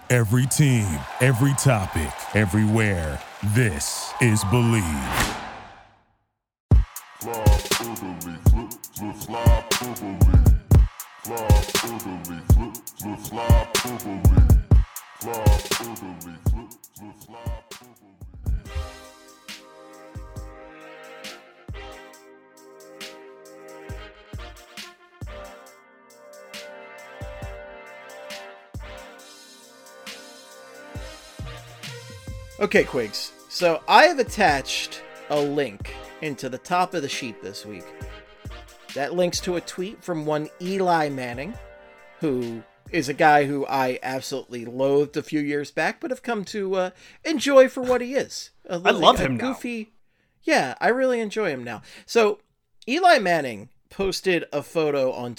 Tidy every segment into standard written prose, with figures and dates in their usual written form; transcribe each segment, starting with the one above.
Every team, every topic, everywhere. This is Believe. Okay, Quigs. So I have attached a link into the top of the sheet this week. That links to a tweet from one Eli Manning, who is a guy who I absolutely loathed a few years back, but have come to enjoy for what he is. I love him goofy. Now. Yeah, I really enjoy him now. So Eli Manning posted a photo on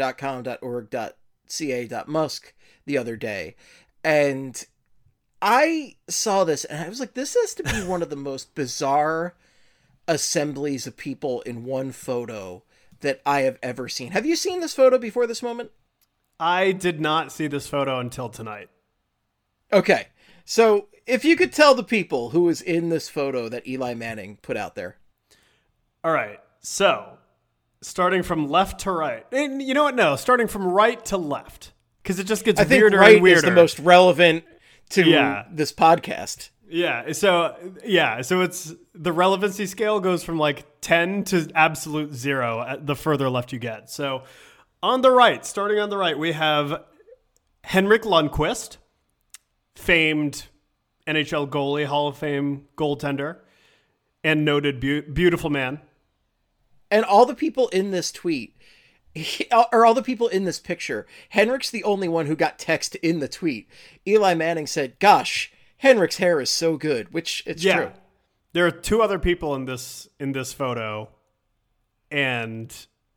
twitter.com.org.ca.musk the other day, and I saw this and I was like, this has to be one of the most bizarre assemblies of people in one photo that I have ever seen. Have you seen this photo before this moment? I did not see this photo until tonight. Okay. So if you could tell the people who was in this photo that Eli Manning put out there. All right. So starting from left to right. And you know what? No, starting from right to left. Because it just gets weirder right and weirder. Is the most relevant to this podcast. So it's the relevancy scale goes from like 10 to absolute 0 at the further left you get. So on the right, starting on the right, we have Henrik Lundqvist, famed NHL goalie, Hall of Fame goaltender, and noted beautiful man. And all the people in this tweet, or all the people in this picture, Henrik's the only one who got text in the tweet. Eli Manning said, "Gosh, Henrik's hair is so good," which it's true. There are two other people in this photo, and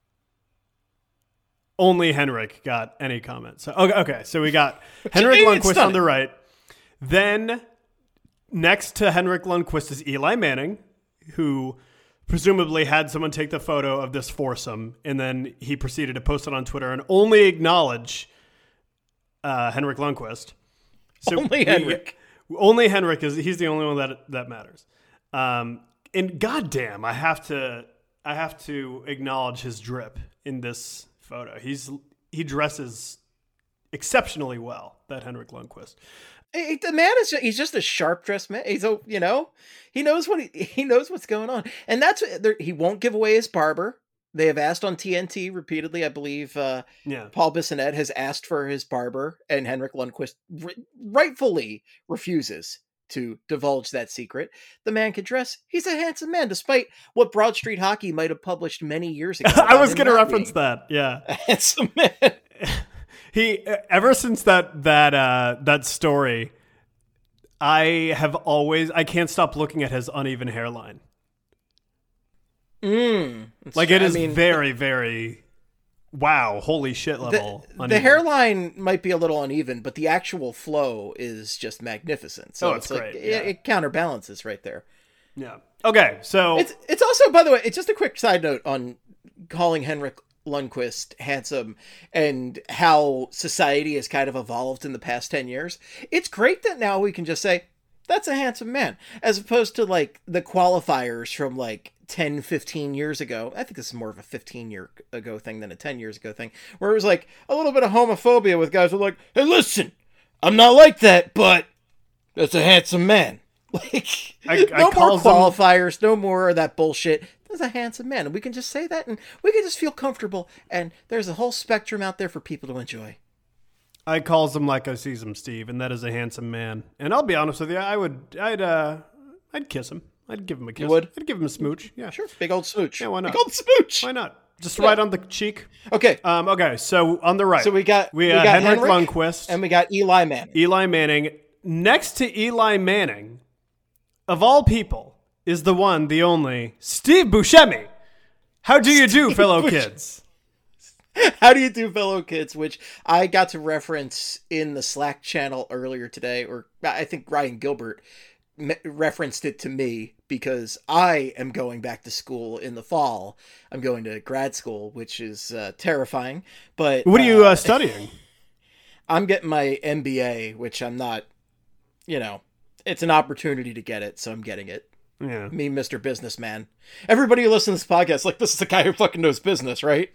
only Henrik got any comment. So okay, so we got Henrik Lundqvist on the right. Then next to Henrik Lundqvist is Eli Manning, who presumably had someone take the photo of this foursome, and then he proceeded to post it on Twitter and only acknowledge Henrik Lundqvist. So Henrik. Only Henrik he's the only one that matters. And goddamn, I have to acknowledge his drip in this photo. He dresses exceptionally well, that Henrik Lundqvist. The man he's just a sharp dressed man. He's he knows he knows what's going on, and that's he won't give away his barber. They have asked on TNT repeatedly. I believe Paul Bissonnette has asked for his barber, and Henrik Lundqvist rightfully refuses to divulge that secret. The man can dress. He's a handsome man, despite what Broad Street Hockey might have published many years ago. I was going to reference that. Yeah, a handsome man. He ever since that story, I can't stop looking at his uneven hairline. It is very, very wow, holy shit level. The hairline might be a little uneven, but the actual flow is just magnificent. So it's great. It counterbalances right there. Yeah. Okay, so it's also, by the way, it's just a quick side note on calling Henrik Lundqvist handsome and how society has kind of evolved in the past 10 years. It's great that now we can just say that's a handsome man, as opposed to like the qualifiers from like 10, 15 years ago. I think this is more of a 15-year ago thing than a 10 years ago thing, where it was like a little bit of homophobia with guys who were like, "Hey, listen, I'm not like that, but that's a handsome man." Like, no more qualifiers, no more of that bullshit. That's a handsome man. And we can just say that, and we can just feel comfortable, and there's a whole spectrum out there for people to enjoy. I calls him like I sees him, Steve, and that is a handsome man. And I'll be honest with you, I'd kiss him. I'd give him a kiss. You would? I'd give him a smooch. Yeah, sure. Big old smooch. Yeah, why not? Big old smooch. Why not? Just right on the cheek. Okay. Okay. So on the right, so we got Henrik Lundqvist, and we got Eli Manning. Eli Manning. Next to Eli Manning, of all people, is the one, the only Steve Buscemi. How do you do, fellow kids? How do you do, fellow kids? Which I got to reference in the Slack channel earlier today, or I think Ryan Gilbert referenced it to me because I am going back to school in the fall. I'm going to grad school, which is terrifying. But what are you studying? I'm getting my MBA, which I'm not, it's an opportunity to get it, so I'm getting it. Yeah. Me, Mr. Businessman. Everybody who listens to this podcast, like, this is the guy who fucking knows business, right?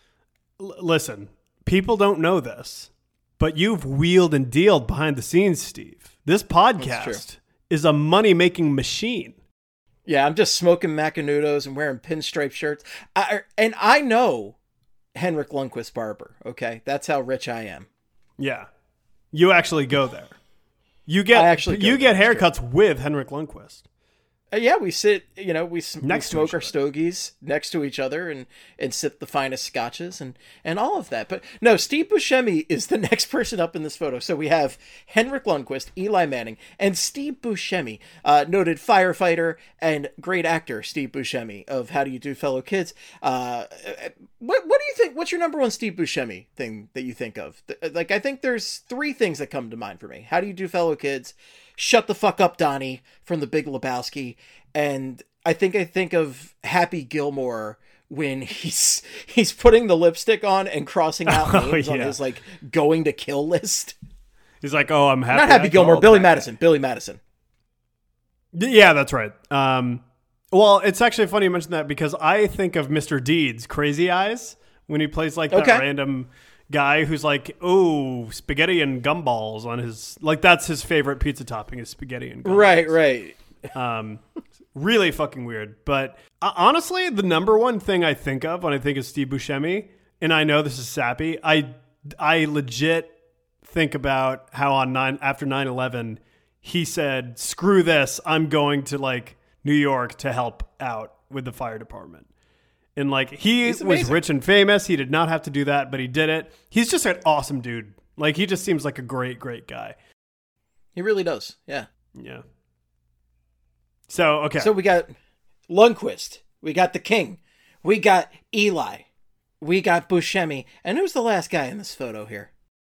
Listen, people don't know this, but you've wheeled and dealed behind the scenes, Steve. This podcast is a money-making machine. Yeah, I'm just smoking Macanudos and wearing pinstripe shirts. And I know Henrik Lundqvist barber, okay? That's how rich I am. Yeah. You actually go there. You get haircuts with Henrik Lundqvist. Yeah, we sit, we smoke our stogies next to each other and sip the finest scotches and all of that. But no, Steve Buscemi is the next person up in this photo. So we have Henrik Lundqvist, Eli Manning, and Steve Buscemi, noted firefighter and great actor Steve Buscemi of How Do You Do, Fellow Kids. What do you think? What's your number one Steve Buscemi thing that you think of? Like, I think there's three things that come to mind for me. How Do You Do, Fellow Kids? Shut the Fuck Up, Donnie from The Big Lebowski. And I think of Happy Gilmore when he's putting the lipstick on and crossing out names on his like going to kill list. He's like, oh, I'm happy. Not Happy Gilmore, Billy Madison. Billy Madison. Yeah, that's right. Well, it's actually funny you mentioned that because I think of Mr. Deeds, Crazy Eyes, when he plays like that random guy who's like, oh, spaghetti and gumballs on his, like, that's his favorite pizza topping is spaghetti and gumballs. Right. Really fucking weird. But honestly, the number one thing I think of when I think of Steve Buscemi, and I know this is sappy, I legit think about how after 9/11, he said, screw this, I'm going to like New York to help out with the fire department. And like, he was rich and famous. He did not have to do that, but he did it. He's just an awesome dude. Like, he just seems like a great, great guy. He really does. Yeah. Yeah. So, okay. So we got Lundqvist. We got the King. We got Eli. We got Buscemi. And who's the last guy in this photo here?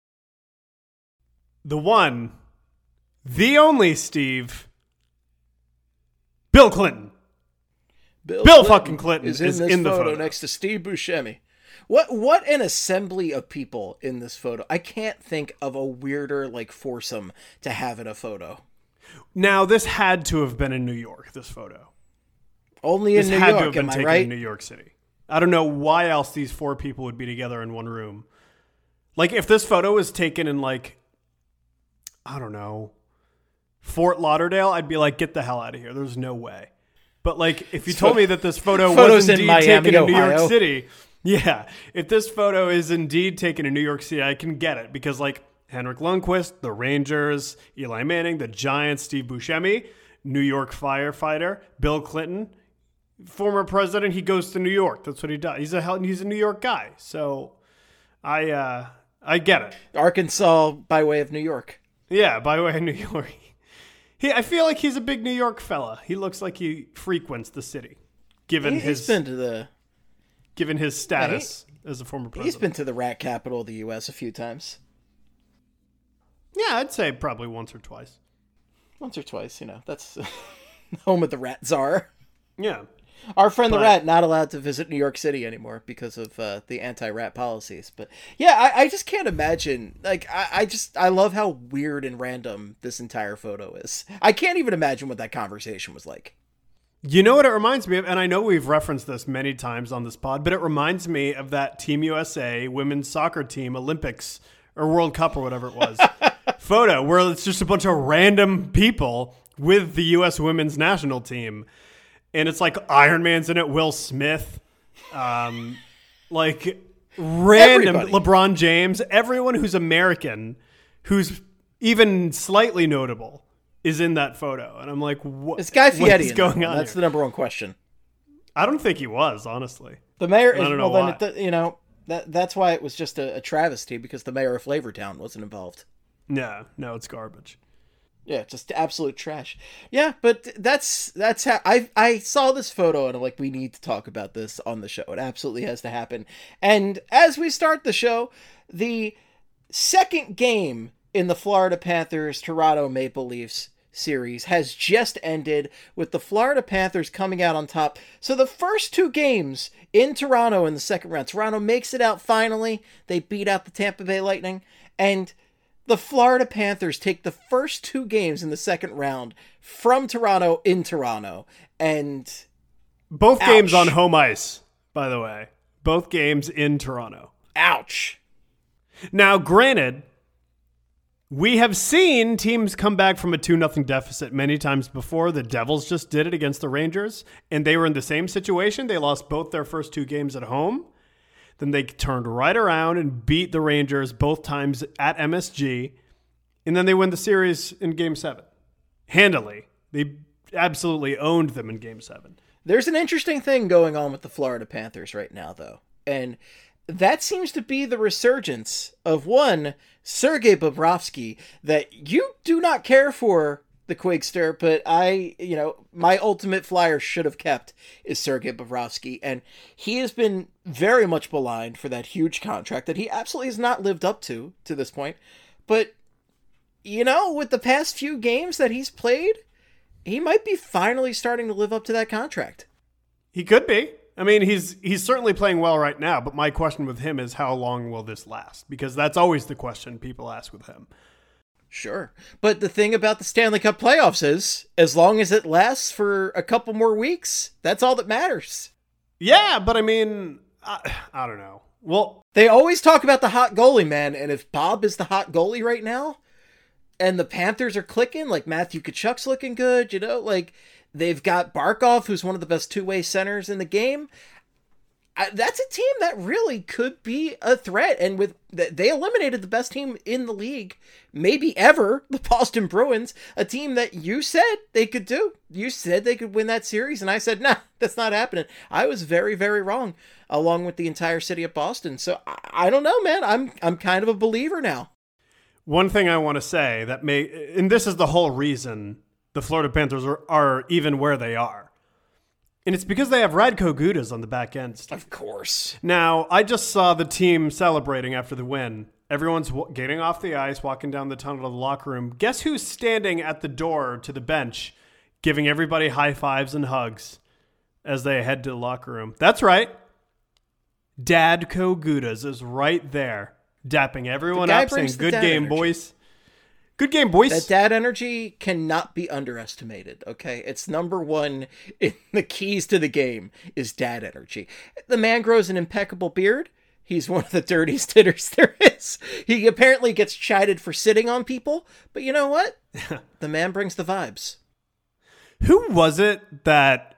The one, the only Steve, Bill Clinton. Bill fucking Clinton is in the photo next to Steve Buscemi. What an assembly of people in this photo. I can't think of a weirder like foursome to have in a photo. Now, this had to have been in New York, this photo. Only in New York, had to have been am I taken right? in New York City. I don't know why else these four people would be together in one room. Like, if this photo was taken in, like, I don't know, Fort Lauderdale, I'd be like, get the hell out of here. There's no way. But, like, if you told me that this photo was indeed taken in New York City, yeah, if this photo is indeed taken in New York City, I can get it. Because, like, Henrik Lundqvist, the Rangers, Eli Manning, the Giants, Steve Buscemi, New York firefighter, Bill Clinton, former president, he goes to New York. That's what he does. He's a New York guy. So I get it. Arkansas by way of New York. Yeah, by way of New York. I feel like he's a big New York fella. He looks like he frequents the city, given his status as a former president. He's been to the rat capital of the U.S. a few times. Yeah, I'd say probably once or twice. Once or twice, that's home of the rat czar. Yeah. Our friend the rat not allowed to visit New York City anymore because of the anti-rat policies. But yeah, I just can't imagine. Like, I love how weird and random this entire photo is. I can't even imagine what that conversation was like. You know what it reminds me of? And I know we've referenced this many times on this pod, but it reminds me of that Team USA women's soccer team Olympics or World Cup or whatever it was photo where it's just a bunch of random people with the U.S. women's national team. And it's like Iron Man's in it, Will Smith, like random Everybody. LeBron James, everyone who's American, who's even slightly notable, is in that photo. And I'm like, what is Guy Fieri what's going on? That's here? The number one question. I don't think he was, honestly. The mayor is, well, then that's why it was just a travesty because the mayor of Flavortown wasn't involved. No, it's garbage. Yeah, just absolute trash. Yeah, but that's how I saw this photo and I'm like, we need to talk about this on the show. It absolutely has to happen. And as we start the show, the second game in the Florida Panthers Toronto Maple Leafs series has just ended with the Florida Panthers coming out on top. So the first two games in Toronto in the second round, Toronto makes it out finally. They beat out the Tampa Bay Lightning and The Florida Panthers take the first 2 games in the second round from Toronto in Toronto, and both games on home ice, by the way. Both games in Toronto. Ouch. Now, granted, we have seen teams come back from a 2-0 deficit many times before. The Devils just did it against the Rangers, and they were in the same situation. They lost both their first 2 games at home. Then they turned right around and beat the Rangers both times at MSG, and then they win the series in Game 7. Handily. They absolutely owned them in Game 7. There's an interesting thing going on with the Florida Panthers right now, though. And that seems to be the resurgence of one Sergei Bobrovsky that you do not care for, the Quigster, but my ultimate flyer should have kept is Sergei Bobrovsky. And he has been very much maligned for that huge contract that he absolutely has not lived up to this point. But, with the past few games that he's played, he might be finally starting to live up to that contract. He could be. I mean, he's certainly playing well right now, but my question with him is how long will this last? Because that's always the question people ask with him. Sure. But the thing about the Stanley Cup playoffs is, as long as it lasts for a couple more weeks, that's all that matters. Yeah, but I mean, I don't know. Well, they always talk about the hot goalie, man, and if Bob is the hot goalie right now, and the Panthers are clicking, like Matthew Tkachuk's looking good, they've got Barkov, who's one of the best 2-way centers in the game. That's a team that really could be a threat. And they eliminated the best team in the league, maybe ever, the Boston Bruins, a team that you said they could do. You said they could win that series, and I said, nah, that's not happening. I was very, very wrong, along with the entire city of Boston. So I don't know, man. I'm kind of a believer now. One thing I want to say and this is the whole reason the Florida Panthers are even where they are. And it's because they have Radko Gudas on the back end. Of course. Now, I just saw the team celebrating after the win. Everyone's getting off the ice, walking down the tunnel to the locker room. Guess who's standing at the door to the bench, giving everybody high fives and hugs as they head to the locker room? That's right. Dadko Gudas is right there, dapping everyone up, saying, good game, boys. Good game, boys. That dad energy cannot be underestimated, okay? It's number one in the keys to the game is dad energy. The man grows an impeccable beard. He's one of the dirtiest hitters there is. He apparently gets chided for sitting on people, but you know what? The man brings the vibes. Who was it that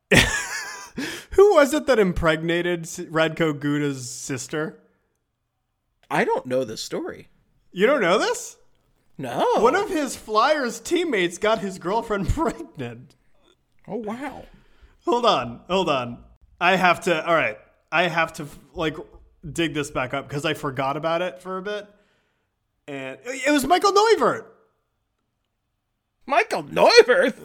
impregnated Radko Gudas' sister? I don't know this story. You don't know this? No. One of his Flyers teammates got his girlfriend pregnant. Oh, wow. Hold on. I have to dig this back up because I forgot about it for a bit. And it was Michael Neuvirth. Michael Neuvirth?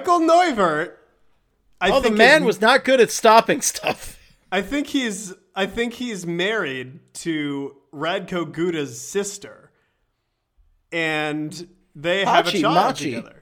The man was not good at stopping stuff. I think he's married to Radko Gudas' sister. And they have a child together.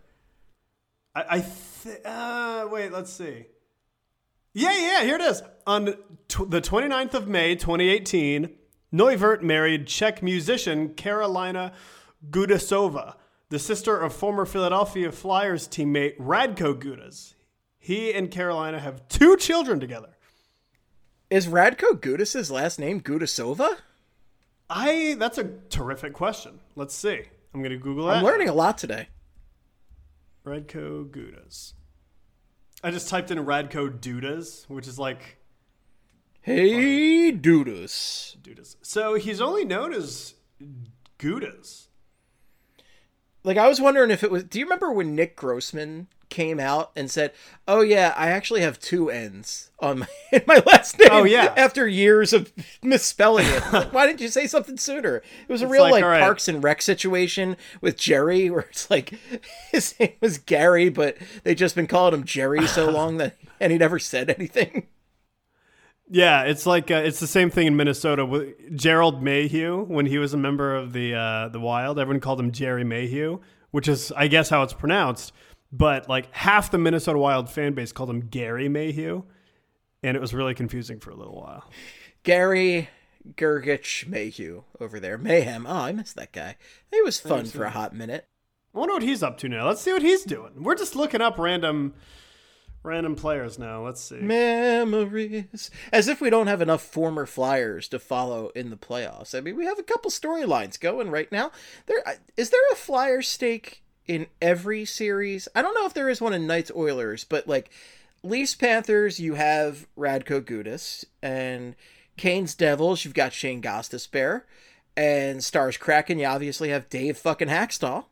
Wait, let's see. Yeah, here it is. On the 29th of May, 2018, Neuvirth married Czech musician Karolina Gudasova, the sister of former Philadelphia Flyers teammate Radko Gudas. He and Karolina have 2 children together. Is Radko Gudas' last name Gudasova? That's a terrific question. Let's see. I'm going to Google that. I'm learning a lot today. Radko Gudas. I just typed in Radko Dudas, which is like... Hey, Dudas. So he's only known as Gudas. Like, I was wondering if it was... Do you remember when Nick Grossman came out and said, oh yeah, I actually have 2 N's on in my last name. Oh yeah. After years of misspelling it. Like, why didn't you say something sooner? It was a real right. Parks and Rec situation with Jerry where it's like his name was Gary, but they just been calling him Jerry so long and he never said anything. Yeah, it's like it's the same thing in Minnesota with Gerald Mayhew when he was a member of the Wild. Everyone called him Jerry Mayhew, which is I guess how it's pronounced. But like half the Minnesota Wild fan base called him Gary Mayhew, and it was really confusing for a little while. Gary Gergich Mayhew over there. Mayhem. Oh, I missed that guy. He was fun for a hot minute. I wonder what he's up to now. Let's see what he's doing. We're just looking up random players now. Let's see. Memories. As if we don't have enough former Flyers to follow in the playoffs. I mean, we have a couple storylines going right now. Is there a Flyer stake in every series? I don't know if there is one in Knights Oilers, but like Leafs Panthers, you have Radko Gudas, and Canes Devils, you've got Shane Gostisbehere, and Stars Kraken, you obviously have Dave fucking Hackstall.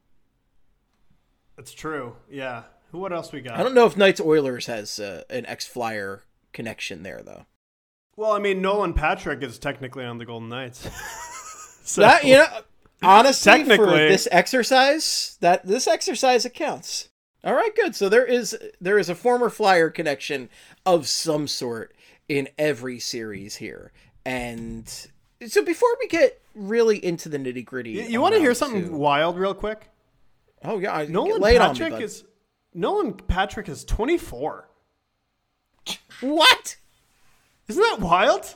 That's true. Yeah. What else we got? I don't know if Knights Oilers has an ex-Flyer connection there, though. Well, I mean, Nolan Patrick is technically on the Golden Knights. So, honestly, for this exercise, it counts. All right, good. So there is a former Flyer connection of some sort in every series here. And so before we get really into the nitty-gritty... You want to hear something wild real quick? Oh, yeah. Nolan Patrick is 24. What? Isn't that wild?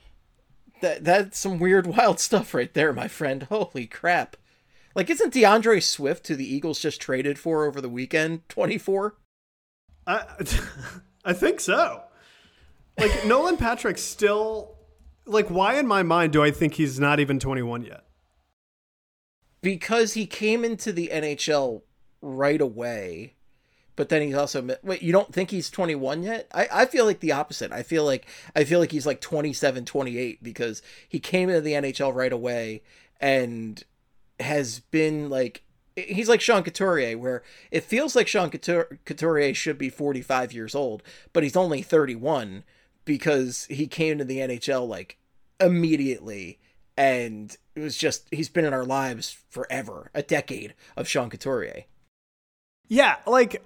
That's some weird, wild stuff right there, my friend. Holy crap. Like, isn't DeAndre Swift, who the Eagles just traded for over the weekend, 24? I think so. Like, Nolan Patrick still... Like, why in my mind do I think he's not even 21 yet? Because he came into the NHL right away, but then he's also... Wait, you don't think he's 21 yet? I feel like the opposite. I feel like he's like 27, 28, because he came into the NHL right away and has been like... He's like Sean Couturier, where it feels like Sean Couturier should be 45 years old, but he's only 31 because he came to the NHL like immediately, and it was just, he's been in our lives forever, a decade of Sean Couturier. Yeah, like,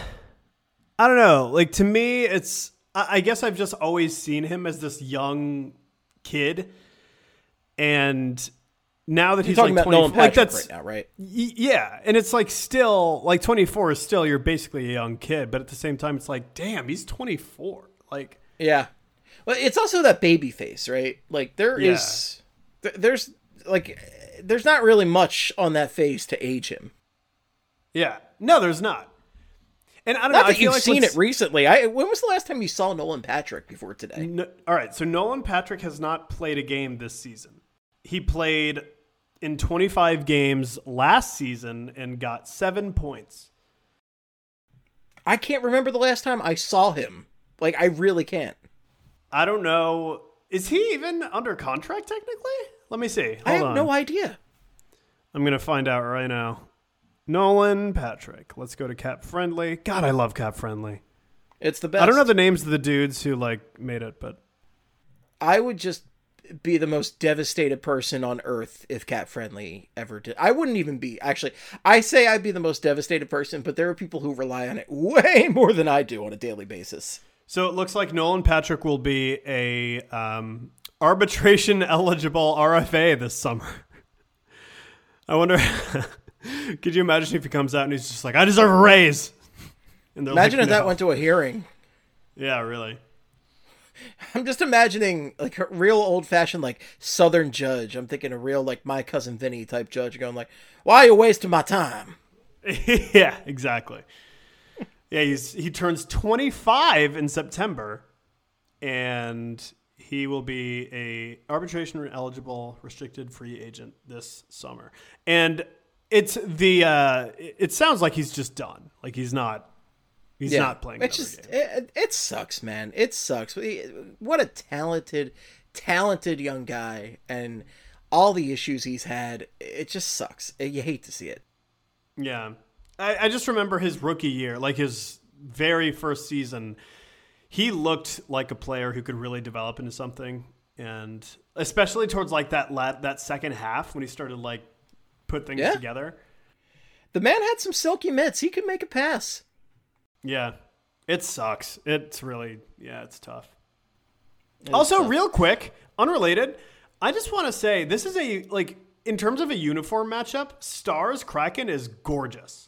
I don't know. Like, to me, it's, I guess I've just always seen him as this young kid, and now that he's talking like about Nolan Patrick that's right now, right? Yeah, and it's like still, like 24 is still, you're basically a young kid, but at the same time, it's like, damn, he's 24. Like, yeah. Well, it's also that baby face, right? Like, there's not really much on that face to age him. Yeah. No, there's not. And I don't know. Not that you've seen it recently. When was the last time you saw Nolan Patrick before today? No, all right. So Nolan Patrick has not played a game this season. He played in 25 games last season and got 7 points. I can't remember the last time I saw him. Like, I really can't. I don't know. Is he even under contract technically? Let me see. I have no idea. I'm going to find out right now. Nolan Patrick. Let's go to Cap Friendly. God, I love Cap Friendly. It's the best. I don't know the names of the dudes who like made it, but I would just be the most devastated person on earth if Cap Friendly ever did. I wouldn't even be. Actually, I say I'd be the most devastated person, but there are people who rely on it way more than I do on a daily basis. So it looks like Nolan Patrick will be a arbitration eligible RFA this summer. I wonder, could you imagine if he comes out and he's just like, I deserve a raise? And imagine like, if that went to a hearing. Yeah, really. I'm just imagining like a real old fashioned like Southern judge. I'm thinking a real like My Cousin Vinny type judge going like, why are you wasting my time? Yeah, exactly. Yeah, he turns 25 in September, and he will be a arbitration eligible restricted free agent this summer. And it's it sounds like he's just done. Like he's not playing. It's just it sucks, man. It sucks. What a talented young guy, and all the issues he's had. It just sucks. You hate to see it. Yeah. I just remember his rookie year, like his very first season, he looked like a player who could really develop into something. And especially towards like that second half when he started like put things together. The man had some silky mitts. He could make a pass. Yeah. It sucks. It's really, it's tough. Also, real quick, unrelated, I just want to say this is in terms of a uniform matchup, Stars Kraken is gorgeous.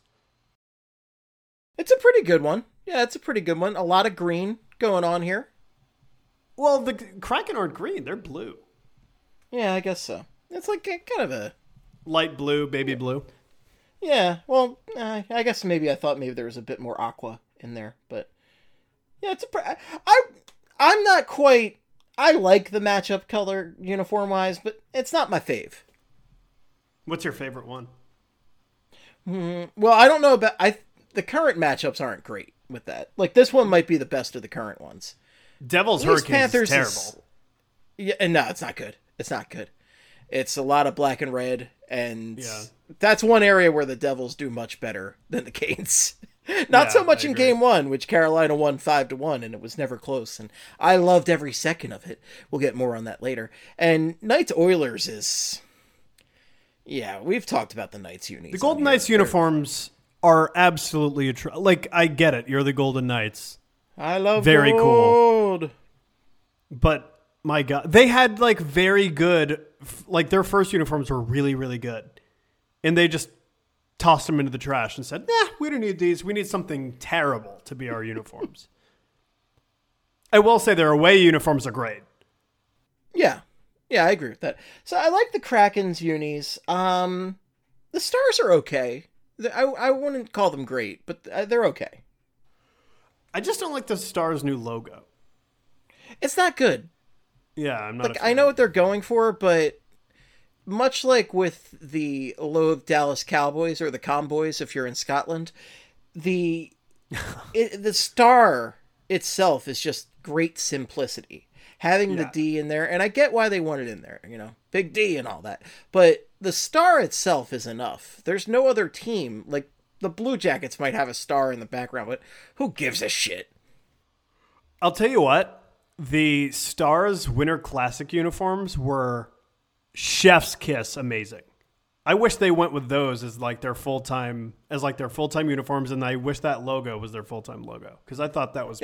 It's a pretty good one. Yeah, it's a pretty good one. A lot of green going on here. Well, the Kraken aren't green. They're blue. Yeah, I guess so. It's like kind of a Light blue, baby blue. yeah. Well, I guess maybe I thought maybe there was a bit more aqua in there, but yeah, I'm not quite. I like the matchup color uniform wise, but it's not my fave. What's your favorite one? Well, I don't know about the current matchups aren't great with that. Like this one might be the best of the current ones. Devils Hurricanes is terrible. Yeah, and no, it's not good. It's not good. It's a lot of black and red, and that's one area where the Devils do much better than the Canes. Not so much in game one, which Carolina won 5-1, and it was never close. And I loved every second of it. We'll get more on that later. And Knights Oilers is, yeah, we've talked about the Knights unis. The Golden Knights uniforms are absolutely like I get it. You're the Golden Knights. I love very gold. Cool. But my God, they had like very good, like their first uniforms were really, really good, and they just tossed them into the trash and said, "Nah, we don't need these. We need something terrible to be our uniforms." I will say their away uniforms are great. Yeah, I agree with that. So I like the Kraken's unis. The Stars are okay. I wouldn't call them great, but they're okay. I just don't like the Stars' new logo. It's not good. Yeah, I'm not. Like I know what they're going for, but much like with the loathed Dallas Cowboys or the Comboys, if you're in Scotland, the star itself is just great simplicity. Having the D in there, and I get why they want it in there, big D and all that. But the star itself is enough. There's no other team, like the Blue Jackets might have a star in the background, but who gives a shit? I'll tell you what, the Stars Winter Classic uniforms were chef's kiss amazing. I wish they went with those as their full-time uniforms, and I wish that logo was their full-time logo, because I thought that was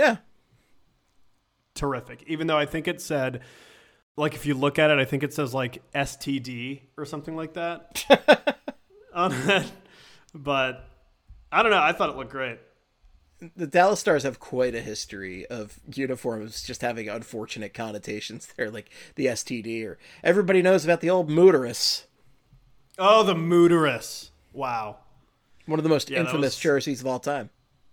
terrific. Even though I think it said, like, if you look at it, I think it says like STD or something like that on it. But I don't know. I thought it looked great. The Dallas Stars have quite a history of uniforms just having unfortunate connotations there, like the STD, or everybody knows about the old Mooterus. Oh, the Mooterus. Wow. One of the most infamous jerseys of all time.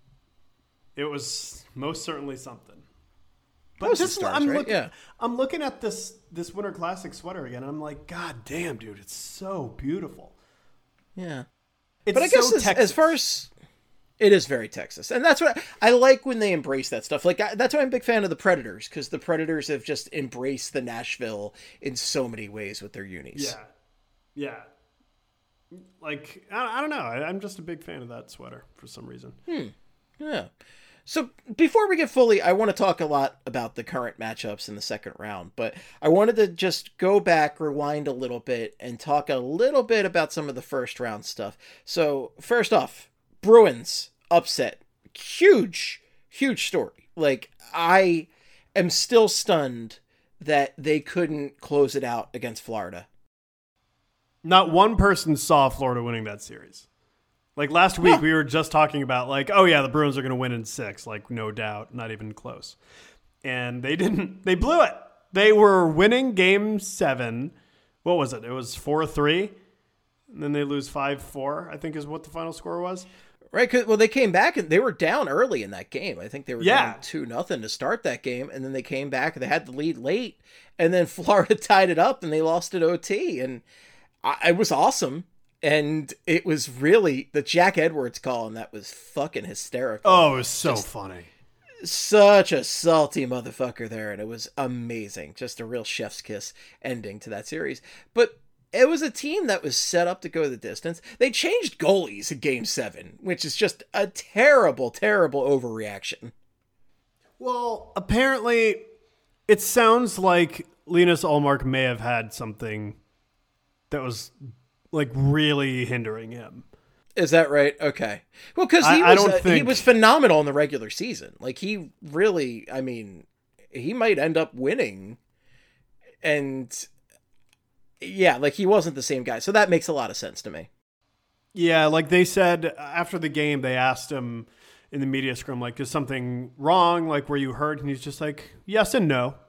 It was most certainly something. But I'm looking at this Winter Classic sweater again, and I'm like, God damn, dude, it's so beautiful. Yeah. But I guess as far as... It is very Texas. And that's what I like when they embrace that stuff. Like, that's why I'm a big fan of the Predators, because the Predators have just embraced the Nashville in so many ways with their unis. Yeah. Like, I don't know. I'm just a big fan of that sweater for some reason. Yeah. So before we get fully, I want to talk a lot about the current matchups in the second round, but I wanted to just go back, rewind a little bit, and talk a little bit about some of the first round stuff. So first off, Bruins upset. Huge story. Like, I am still stunned that they couldn't close it out against Florida. Not one person saw Florida winning that series. Like last week, we were just talking about like, oh yeah, the Bruins are going to win in 6, like no doubt, not even close. And they didn't. They blew it. They were winning game 7. What was it? It was 4-3. And then they lose 5-4, I think is what the final score was. Right, well, they came back and they were down early in that game. I think they were down 2-0 to start that game, and then they came back. They had the lead late, and then Florida tied it up, and they lost at OT, and it was awesome. And it was really the Jack Edwards call, and that was fucking hysterical. Oh, it was so funny. Such a salty motherfucker there, and it was amazing. Just a real chef's kiss ending to that series. But it was a team that was set up to go the distance. They changed goalies in Game 7, which is just a terrible, terrible overreaction. Well, apparently, it sounds like Linus Ullmark may have had something that was, like, really hindering him. Is that right? Okay. Well, because he was phenomenal in the regular season. Like, he really, I mean, he might end up winning. And... yeah, like he wasn't the same guy. So that makes a lot of sense to me. Yeah, like they said after the game, they asked him in the media scrum, like, is something wrong? Like, were you hurt? And he's just like, yes and no.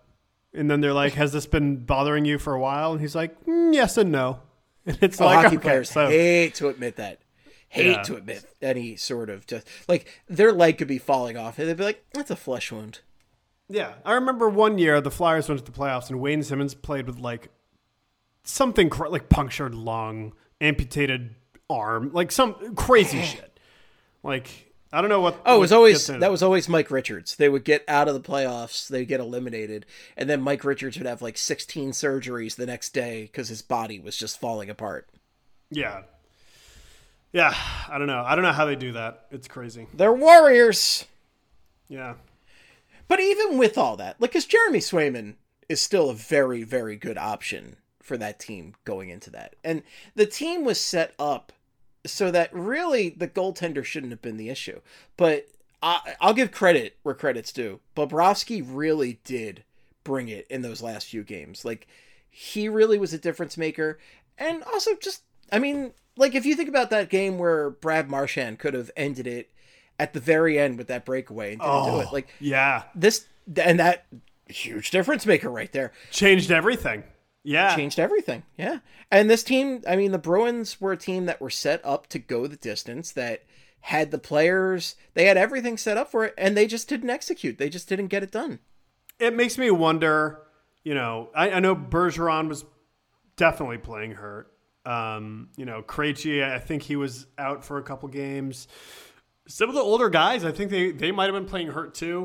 And then they're like, has this been bothering you for a while? And he's like, yes and no. And it's hockey players hate to admit that. To admit any sort of just like their leg could be falling off and they'd be like, that's a flesh wound. Yeah. I remember one year the Flyers went to the playoffs and Wayne Simmons played with like something like punctured lung, amputated arm, like some crazy shit. Like, I don't know what. Oh, that was always Mike Richards. They would get out of the playoffs, they'd get eliminated, and then Mike Richards would have like 16 surgeries the next day because his body was just falling apart. Yeah. Yeah, I don't know. I don't know how they do that. It's crazy. They're warriors. Yeah. But even with all that, like, because Jeremy Swayman is still a very, very good option for that team going into that. And the team was set up so that really the goaltender shouldn't have been the issue. But I'll give credit where credit's due. Bobrovsky really did bring it in those last few games. Like, he really was a difference maker. And also just, I mean, like, if you think about that game where Brad Marchand could have ended it at the very end with that breakaway and didn't do it. Like, yeah. That huge difference maker right there. Changed everything. Yeah. Changed everything. Yeah. And this team, I mean, the Bruins were a team that were set up to go the distance, that had the players, they had everything set up for it, and they just didn't execute. They just didn't get it done. It makes me wonder, you know, I know Bergeron was definitely playing hurt. You know, Krejci, I think he was out for a couple games. Some of the older guys, I think they might have been playing hurt too.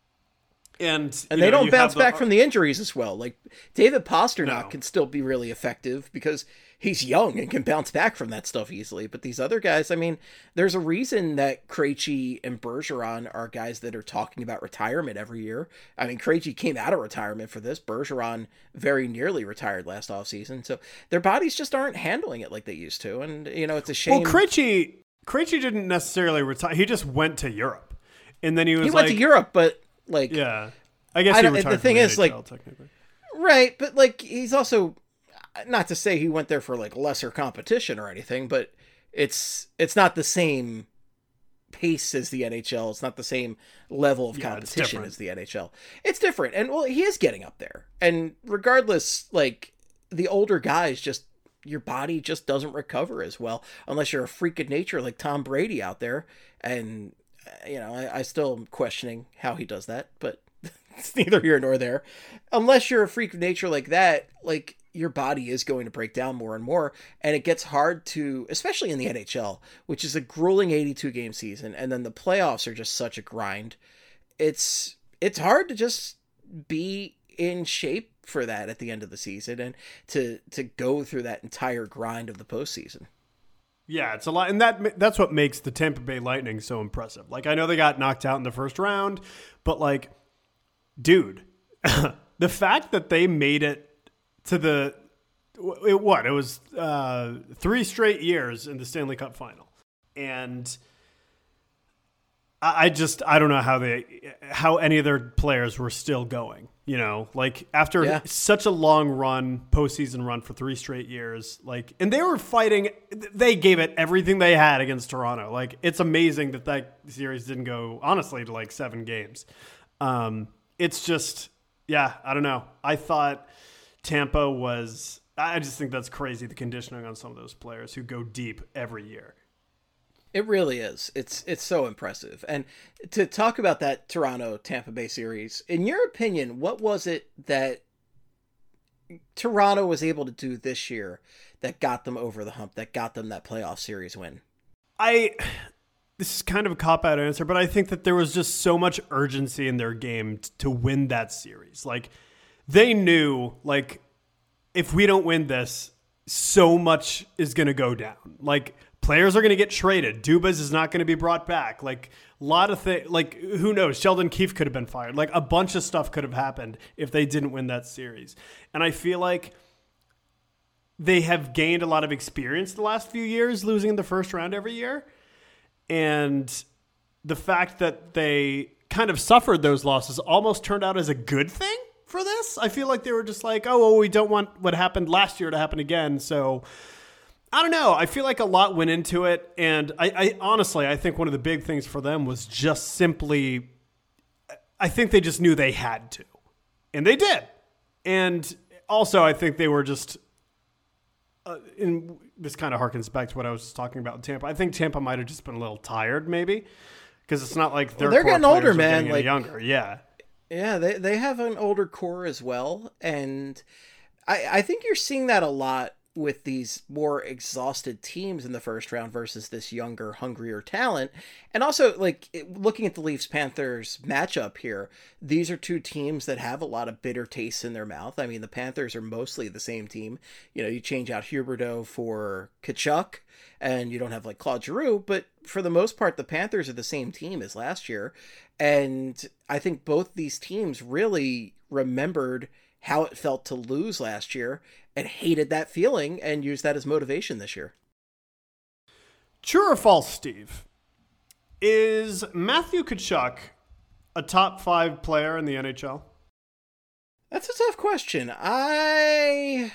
And they don't bounce back from the injuries as well. Like David Pastrnak can still be really effective because he's young and can bounce back from that stuff easily. But these other guys, I mean, there's a reason that Krejci and Bergeron are guys that are talking about retirement every year. I mean, Krejci came out of retirement for this. Bergeron very nearly retired last offseason. So their bodies just aren't handling it like they used to. And, you know, it's a shame. Well, Krejci didn't necessarily retire. He just went to Europe. And then he went to Europe, but like, yeah, I guess he retired. The thing is, NHL, like, technically. Right, but like, he's also, not to say he went there for like lesser competition or anything, but it's not the same pace as the NHL. It's not the same level of competition as the NHL. It's different. And well, he is getting up there. And regardless, like, the older guys, just your body just doesn't recover as well unless you're a freak of nature like Tom Brady out there. And you know, I still am questioning how he does that, but it's neither here nor there. Unless you're a freak of nature like that, like, your body is going to break down more and more, and it gets hard to, especially in the NHL, which is a grueling 82-game season, and then the playoffs are just such a grind. It's hard to just be in shape for that at the end of the season and to go through that entire grind of the postseason. Yeah, it's a lot, and that's what makes the Tampa Bay Lightning so impressive. Like, I know they got knocked out in the first round, but like, dude, the fact that they made it to it was 3 straight years in the Stanley Cup final, and I don't know how any of their players were still going. You know, like, after such a long postseason run for 3 straight years, like, and they were fighting, they gave it everything they had against Toronto. Like, it's amazing that series didn't go, honestly, to like 7 games. It's just, yeah, I don't know. I thought Tampa I just think that's crazy, the conditioning on some of those players who go deep every year. It really is. It's so impressive. And to talk about that Toronto-Tampa Bay series, in your opinion, what was it that Toronto was able to do this year that got them over the hump, that got them that playoff series win? This is kind of a cop-out answer, but I think that there was just so much urgency in their game to win that series. Like, they knew, like, if we don't win this, so much is going to go down. Like, players are going to get traded. Dubas is not going to be brought back. Like, a lot of things, like, who knows? Sheldon Keefe could have been fired. Like, a bunch of stuff could have happened if they didn't win that series. And I feel like they have gained a lot of experience the last few years, losing in the first round every year. And the fact that they kind of suffered those losses almost turned out as a good thing for this. I feel like they were just like, oh, well, we don't want what happened last year to happen again. So I don't know. I feel like a lot went into it. And I honestly, I think one of the big things for them was just simply, I think they just knew they had to. And they did. And also, I think they were just, this kind of harkens back to what I was talking about in Tampa. I think Tampa might have just been a little tired, maybe, because it's not like they're getting older, man. Getting younger, yeah. Yeah, they have an older core as well, and I think you're seeing that a lot with these more exhausted teams in the first round versus this younger, hungrier talent. And also, like, looking at the Leafs-Panthers matchup here, these are two teams that have a lot of bitter tastes in their mouth. I mean, the Panthers are mostly the same team. You know, you change out Huberdeau for Tkachuk, and you don't have, like, Claude Giroux, but for the most part, the Panthers are the same team as last year. And I think both these teams really remembered how it felt to lose last year and hated that feeling and used that as motivation this year. True or false, Steve? Is Matthew Tkachuk a top 5 player in the NHL? That's a tough question. I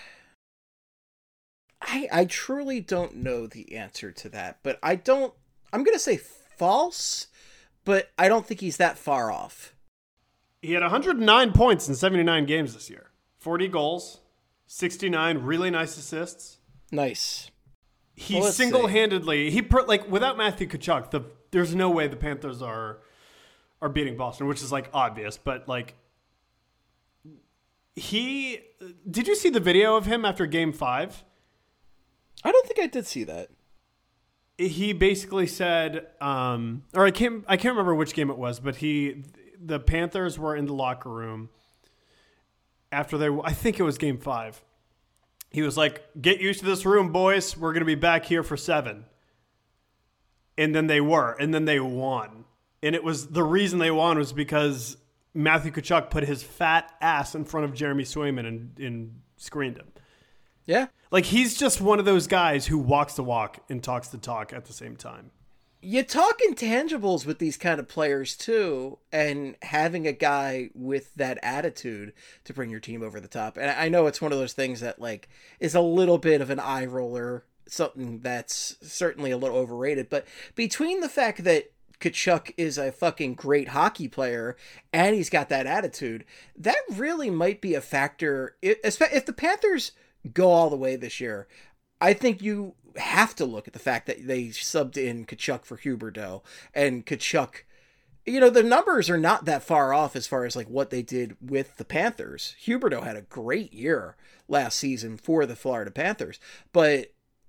truly don't know the answer to that, but I'm going to say false, but I don't think he's that far off. He had 109 points in 79 games this year. 40 goals, 69 really nice assists. Nice. He single-handedly, without Matthew Tkachuk, there's no way the Panthers are beating Boston, which is like obvious, but like did you see the video of him after Game 5? I don't think I did see that. He basically said, or I can't remember which game it was, but the Panthers were in the locker room after I think it was Game 5. He was like, "Get used to this room, boys. We're going to be back here for 7." And then they were, and then they won. And it was the reason they won was because Matthew Tkachuk put his fat ass in front of Jeremy Swayman and screened him. Yeah. Like, he's just one of those guys who walks the walk and talks the talk at the same time. You talk intangibles with these kind of players too, and having a guy with that attitude to bring your team over the top. And I know it's one of those things that like is a little bit of an eye roller, something that's certainly a little overrated. But between the fact that Tkachuk is a fucking great hockey player and he's got that attitude, that really might be a factor. If the Panthers go all the way this year, I think you have to look at the fact that they subbed in Tkachuk for Huberdeau, and Tkachuk, you know, the numbers are not that far off as far as like what they did with the Panthers. Huberdeau had a great year last season for the Florida Panthers, but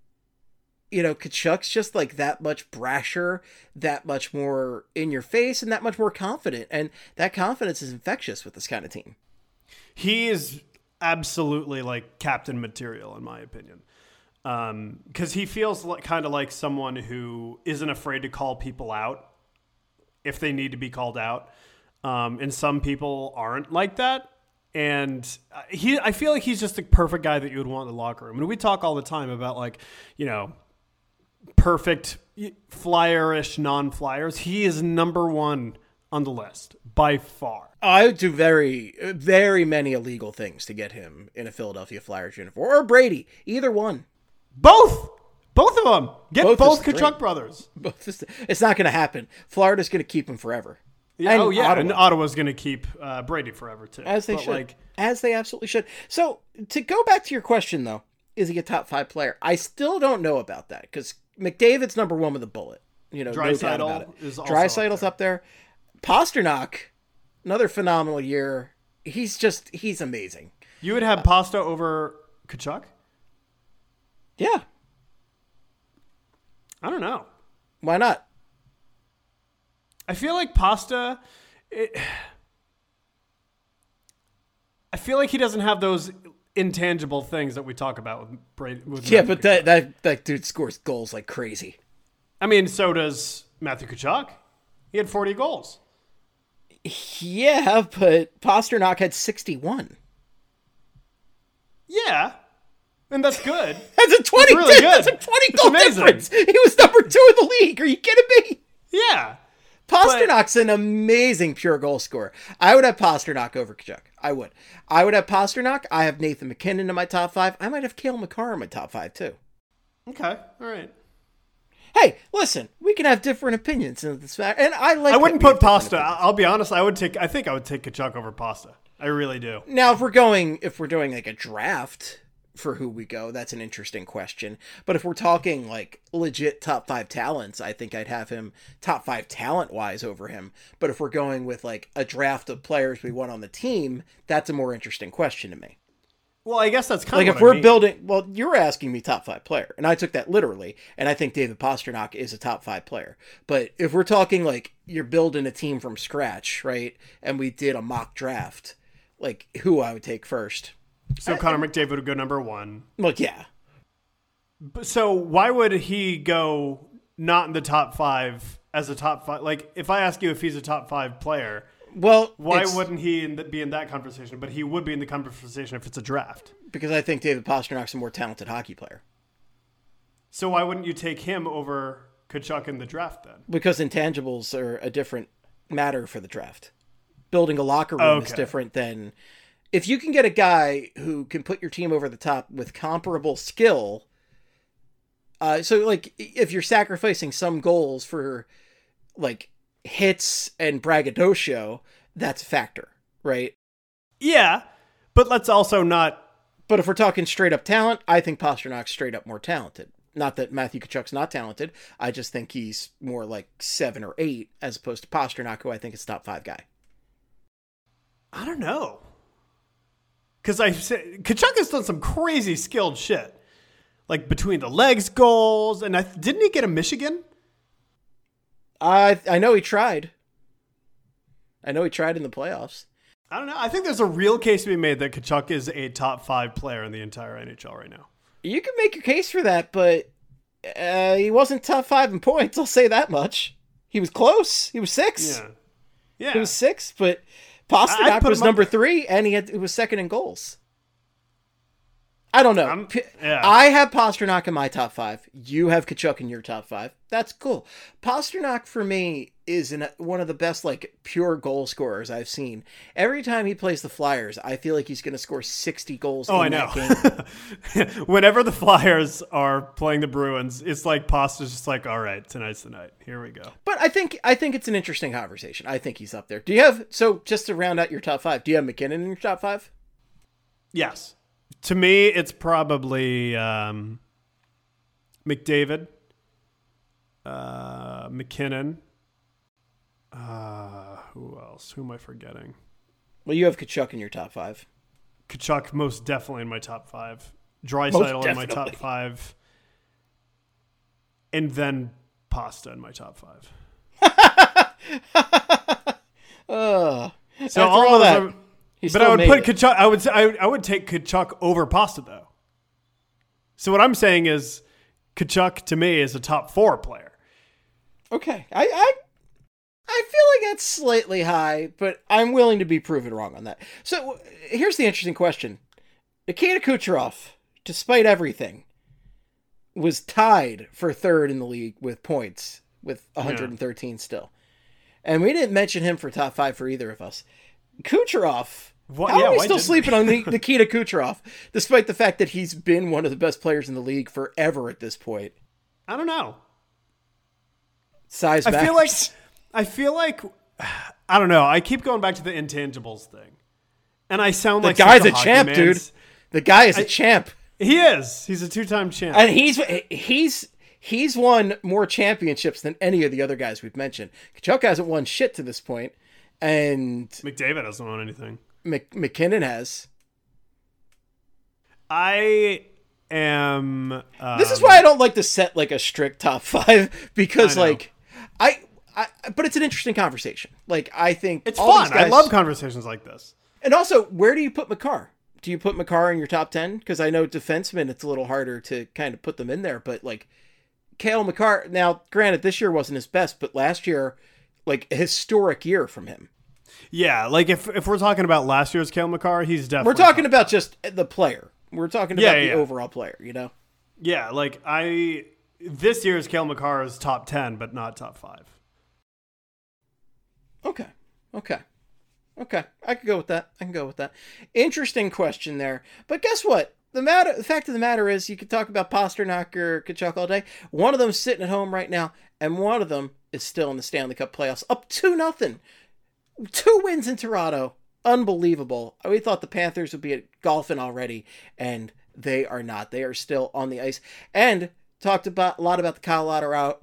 you know, Tkachuk's just like that much brasher, that much more in your face, and that much more confident, and that confidence is infectious with this kind of team. He is absolutely like captain material in my opinion. Because he feels kind of like someone who isn't afraid to call people out if they need to be called out. And some people aren't like that. And I feel like he's just the perfect guy that you would want in the locker room. And we talk all the time about like, you know, perfect flyer-ish non-flyers. He is number one on the list by far. I would do very, very many illegal things to get him in a Philadelphia Flyers uniform, or Brady, either one. Both of them. Get both Tkachuk brothers. It's not going to happen. Florida's going to keep him forever. Yeah, and Ottawa's going to keep Brady forever too. As they should. As they absolutely should. So to go back to your question though, is he a top 5 player? I still don't know about that because McDavid's number 1 with a bullet. You know, no doubt about it. Draisaitl's up there. Pasternak, another phenomenal year. He's amazing. You would have Pasta over Tkachuk? Yeah. I don't know. Why not? I feel like Pasta, I feel like he doesn't have those intangible things that we talk about with Brady. Yeah, but that dude scores goals like crazy. I mean, so does Matthew Tkachuk. He had 40 goals. Yeah, but Pasternak had 61. Yeah. And that's good. That's a 20. Really that's a 20 goal difference. He was number 2 in the league. Are you kidding me? Yeah. Pasternak's an amazing pure goal scorer. I would have Pasternak over Tkachuk. I would have Pasternak. I have Nathan McKinnon in my top 5. I might have Cale Makar in my top 5 too. Okay. All right. Hey, listen, we can have different opinions in this fact, and I wouldn't put Pasta. I'll be honest. I think I would take Tkachuk over Pasta. I really do. Now, if we're doing like a draft for who we go, that's an interesting question. But if we're talking like legit top 5 talents, I think I'd have him top 5 talent wise over him. But if we're going with like a draft of players we want on the team, that's a more interesting question to me. Well, I guess that's kind like of if we're building. Well, you're asking me top 5 player, and I took that literally. And I think David Pastrnak is a top 5 player. But if we're talking like you're building a team from scratch, right? And we did a mock draft, like who I would take first. So Connor McDavid would go number 1. Well, yeah. So why would he go not in the top 5 as a top 5? Like, if I ask you if he's a top 5 player, well, why wouldn't he be in that conversation? But he would be in the conversation if it's a draft. Because I think David Pastrnak's a more talented hockey player. So why wouldn't you take him over Tkachuk in the draft then? Because intangibles are a different matter for the draft. Building a locker room is different than... If you can get a guy who can put your team over the top with comparable skill, so like if you're sacrificing some goals for like hits and braggadocio, that's a factor, right? Yeah, but let's also not. But if we're talking straight up talent, I think Pasternak's straight up more talented. Not that Matthew Tkachuk's not talented. I just think he's more like 7 or 8 as opposed to Pastrnak, who I think is top 5 guy. I don't know. Because Tkachuk has done some crazy skilled shit. Like between the legs goals. And didn't he get a Michigan? I know he tried. I know he tried in the playoffs. I don't know. I think there's a real case to be made that Tkachuk is a top 5 player in the entire NHL right now. You can make your case for that, but he wasn't top 5 in points. I'll say that much. He was close. He was 6. Yeah. He was 6, but Pastrnak was number 3, and he was second in goals. I don't know. I have Pastrnak in my top 5. You have Tkachuk in your top 5. That's cool. Pastrnak, for me, is one of the best, like, pure goal scorers I've seen. Every time he plays the Flyers, I feel like he's going to score 60 goals in that game. Whenever the Flyers are playing the Bruins, it's like Pasta's just like, all right, tonight's the night. Here we go. But I think it's an interesting conversation. I think he's up there. Do you have, so just to round out your top 5, do you have McKinnon in your top 5? Yes. To me, it's probably McDavid, McKinnon. Who else? Who am I forgetting? Well, you have Tkachuk in your top 5. Tkachuk most definitely in my top 5. Draisaitl in my top 5. And then Pasta in my top 5. So all of that. But I would put Tkachuk. I would take Tkachuk over Pasta though. So what I'm saying is, Tkachuk to me is a top 4 player. Okay, I feel like that's slightly high, but I'm willing to be proven wrong on that. So here's the interesting question: Nikita Kucherov, despite everything, was tied for 3rd in the league with points with 113 still, and we didn't mention him for top 5 for either of us. Kucherov. How are we still sleeping on Nikita Kucherov, despite the fact that he's been one of the best players in the league forever at this point? I don't know. Size I matters. feel like I don't know. I keep going back to the intangibles thing, and I sound like the guy's a champ, dude. The guy is a champ. He is. He's a 2-time champ, and he's won more championships than any of the other guys we've mentioned. Tkachuk hasn't won shit to this point, and McDavid hasn't won anything. McKinnon has. I am. This is why I don't like to set like a strict top 5 because like but it's an interesting conversation. Like I think it's fun. I love conversations like this. And also, where do you put Makar? Do you put Makar in your top 10? Because I know defensemen, it's a little harder to kind of put them in there. But like Cale Makar, now granted, this year wasn't his best, but last year, like a historic year from him. Yeah, like if we're talking about last year's Cale Makar, he's definitely. We're talking about just the player. We're talking about the overall player, you know? Yeah, like this year's Cale Makar is top 10, but not top 5. Okay. I could go with that. Interesting question there. But guess what? The fact of the matter is, you could talk about Pastrnak or Tkachuk all day. One of them's sitting at home right now, and one of them is still in the Stanley Cup playoffs, up 2-0. 2 wins in Toronto, unbelievable. We thought the Panthers would be at golfing already, and they are not. They are still on the ice. And talked a lot about the Colorado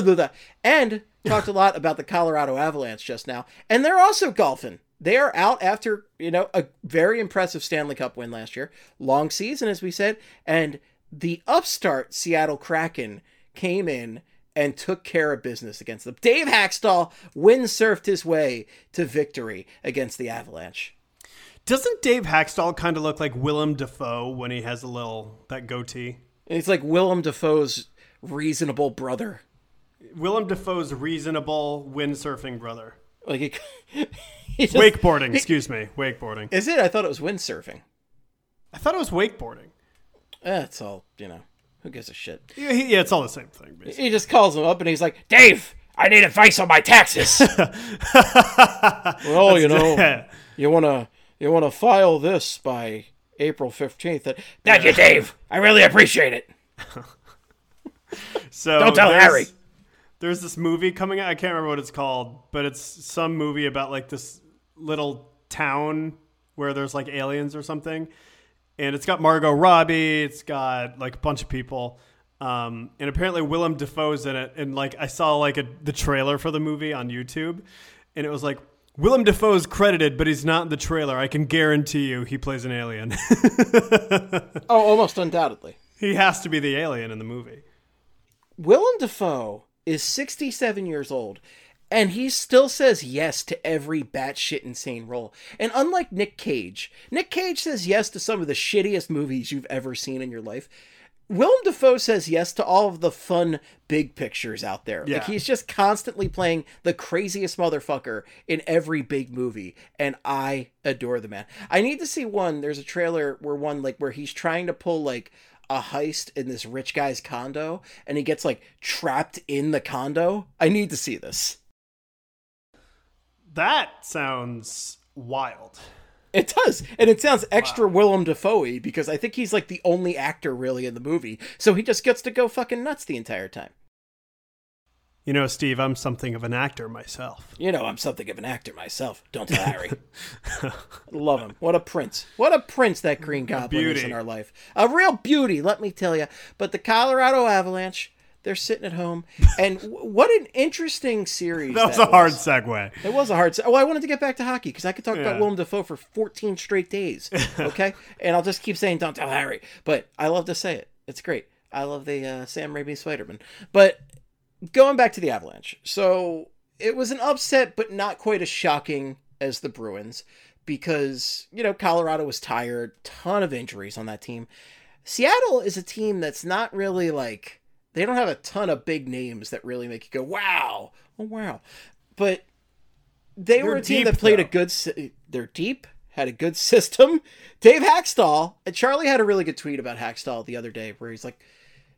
Avalanche just now, and they're also golfing. They are out after, a very impressive Stanley Cup win last year. Long season, as we said. And the upstart Seattle Kraken came in and took care of business against them. Dave Hakstol windsurfed his way to victory against the Avalanche. Doesn't Dave Hakstol kind of look like Willem Dafoe when he has that goatee? It's like Willem Dafoe's reasonable brother. Willem Dafoe's reasonable windsurfing brother. Like wakeboarding, excuse me. Wakeboarding. Is it? I thought it was windsurfing. I thought it was wakeboarding. It's all, who gives a shit? Yeah, it's all the same thing, basically. He just calls him up and he's like, Dave, I need advice on my taxes. Well, you want to file this by April 15th. Thank you, Dave. I really appreciate it. So don't tell Harry. There's this movie coming out. I can't remember what it's called, but it's some movie about like this little town where there's like aliens or something. And it's got Margot Robbie. It's got like a bunch of people. And apparently Willem Dafoe's in it. And like I saw like the trailer for the movie on YouTube. And it was like, Willem Dafoe's credited, but he's not in the trailer. I can guarantee you he plays an alien. Oh, almost undoubtedly. He has to be the alien in the movie. Willem Dafoe is 67 years old, and he still says yes to every batshit insane role. And unlike Nick Cage says yes to some of the shittiest movies you've ever seen in your life. Willem Dafoe says yes to all of the fun big pictures out there. Yeah. Like, he's just constantly playing the craziest motherfucker in every big movie, and I adore the man. I need to see one. There's a trailer where he's trying to pull like a heist in this rich guy's condo, and he gets like trapped in the condo. I need to see this. That sounds wild. It does, and it sounds extra Willem Dafoe-y because I think he's like the only actor really in the movie, so he just gets to go fucking nuts the entire time. Steve, I'm something of an actor myself. I'm something of an actor myself. Don't tell Harry. Love him. What a prince. What a prince that Green Goblin is in our life. A real beauty, let me tell you. But the Colorado Avalanche, they're sitting at home. And what an interesting series that was a hard segue. It was a hard segue. Well, I wanted to get back to hockey because I could talk about Willem Dafoe for 14 straight days. Okay? And I'll just keep saying, don't tell Harry. But I love to say it. It's great. I love the Sam Raimi Spider-Man. But going back to the Avalanche. So it was an upset, but not quite as shocking as the Bruins because, Colorado was tired. Ton of injuries on that team. Seattle is a team that's not really like, they don't have a ton of big names that really make you go, wow. Oh, wow. But they're a team that played they're deep, had a good system. Dave Hakstol, and Charlie had a really good tweet about Hakstol the other day where he's like,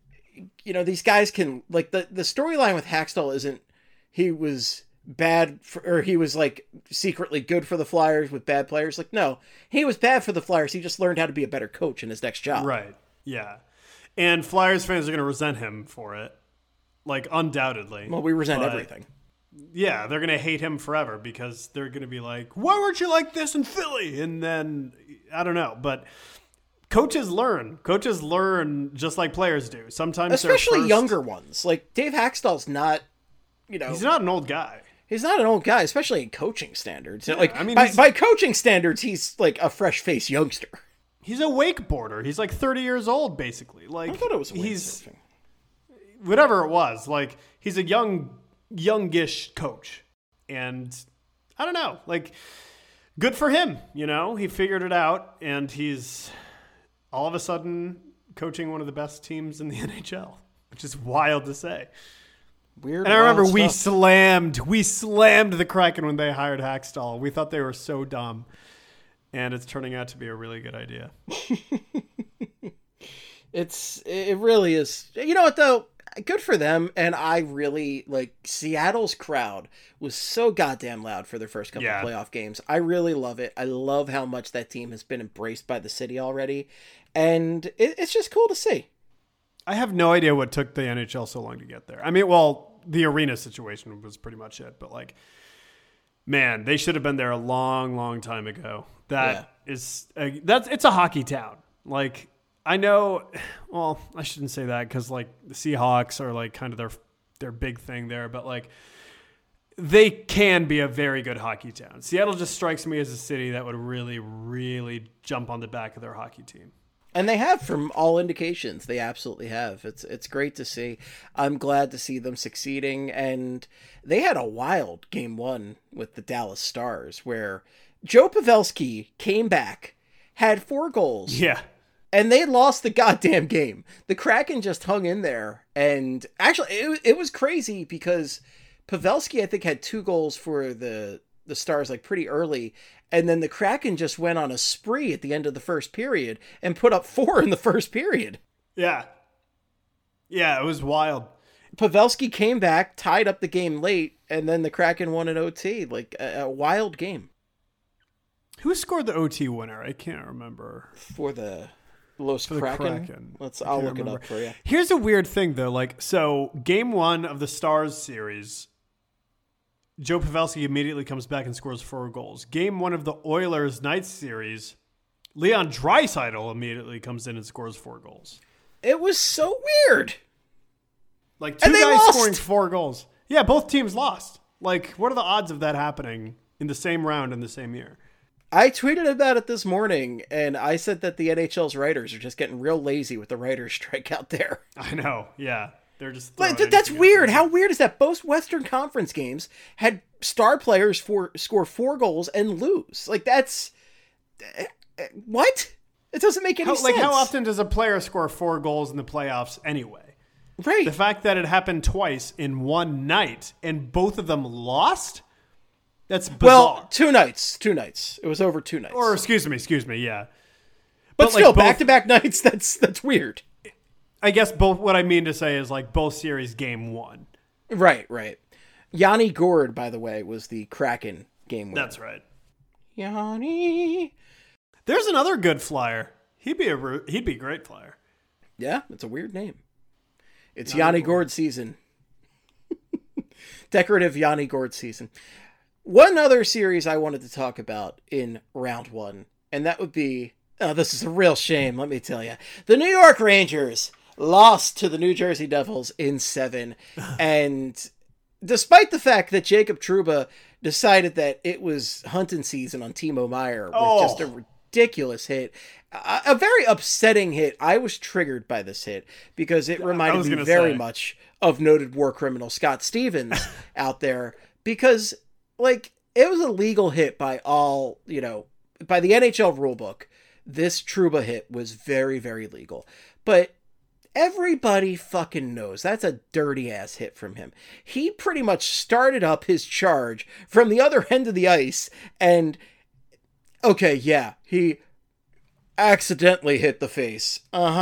these guys can, like, the storyline with Hakstol isn't he was bad or he was like secretly good for the Flyers with bad players. Like, no, he was bad for the Flyers. He just learned how to be a better coach in his next job. Right. Yeah. And Flyers fans are going to resent him for it. Like, undoubtedly. Well, we resent everything. Yeah, they're going to hate him forever because they're going to be like, why weren't you like this in Philly? And then, I don't know. But coaches learn. Coaches learn just like players do. Sometimes especially younger ones. Like, Dave Hakstol's not, he's not an old guy. He's not an old guy, especially in coaching standards. Yeah, like, I mean, by coaching standards, he's like a fresh-faced youngster. He's a wakeboarder. He's like 30 years old, basically. Like, I thought it was windsurfing. Whatever it was. Like, he's a youngish coach. And I don't know. Like, good for him. He figured it out, and he's all of a sudden coaching one of the best teams in the NHL, which is wild to say. Weird. And I remember we slammed the Kraken when they hired Hakstol. We thought they were so dumb. And it's turning out to be a really good idea. It really is. You know what, though? Good for them. And I really, like, Seattle's crowd was so goddamn loud for their first couple of playoff games. I really love it. I love how much that team has been embraced by the city already. And it's just cool to see. I have no idea what took the NHL so long to get there. I mean, well, the arena situation was pretty much it. But, like, man, they should have been there a long, long time ago. It's a hockey town. Like, I know, well, I shouldn't say that because like the Seahawks are like kind of their big thing there, but like they can be a very good hockey town. Seattle just strikes me as a city that would really, really jump on the back of their hockey team. And they have, from all indications. They absolutely have. It's great to see. I'm glad to see them succeeding. And they had a wild game one with the Dallas Stars where Joe Pavelski came back, had 4 goals. Yeah. And they lost the goddamn game. The Kraken just hung in there. And actually, it was crazy because Pavelski, I think, had 2 goals for the Stars like pretty early. And then the Kraken just went on a spree at the end of the first period and put up 4 in the first period. Yeah. Yeah, it was wild. Pavelski came back, tied up the game late, and then the Kraken won an OT. Like a wild game. Who scored the OT winner? I can't remember. For the Los Kraken? I'll look it up for you. Here's a weird thing, though. Like, so game 1 of the Stars series, Joe Pavelski immediately comes back and scores 4 goals. Game 1 of the Oilers Knights series, Leon Draisaitl immediately comes in and scores 4 goals. It was so weird. Like, 2 guys scoring 4 goals. Yeah, both teams lost. Like, what are the odds of that happening in the same round in the same year? I tweeted about it this morning, and I said that the NHL's writers are just getting real lazy with the writers' strike out there. I know, yeah. They're just like, that's weird. How weird is that? Both Western Conference games had star players score 4 goals and lose. Like, that's... What? It doesn't make any sense. Like, how often does a player score 4 goals in the playoffs anyway? Right. The fact that it happened twice in one night, and both of them lost... That's bizarre. Well, 2 nights. It was over 2 nights. Or excuse me, yeah. But still, like back-to-back nights, that's weird. I guess what I mean to say is like both series game 1. Right. Yanni Gourde, by the way, was the Kraken game winner. That's right. Yanni. There's another good flyer. He'd be a great flyer. Yeah, it's a weird name. It's Yanni Gourde season. Decorative Yanni Gourde season. One other series I wanted to talk about in round 1, and that would be, this is a real shame, let me tell you. The New York Rangers lost to the New Jersey Devils in 7, and despite the fact that Jacob Trouba decided that it was hunting season on Timo Meier with just a ridiculous hit, a very upsetting hit. I was triggered by this hit because it reminded me very much of noted war criminal Scott Stevens out there, because... like, it was a legal hit by all, by the NHL rulebook. This Trouba hit was very, very legal. But everybody fucking knows that's a dirty-ass hit from him. He pretty much started up his charge from the other end of the ice, and, okay, yeah, he accidentally hit the face.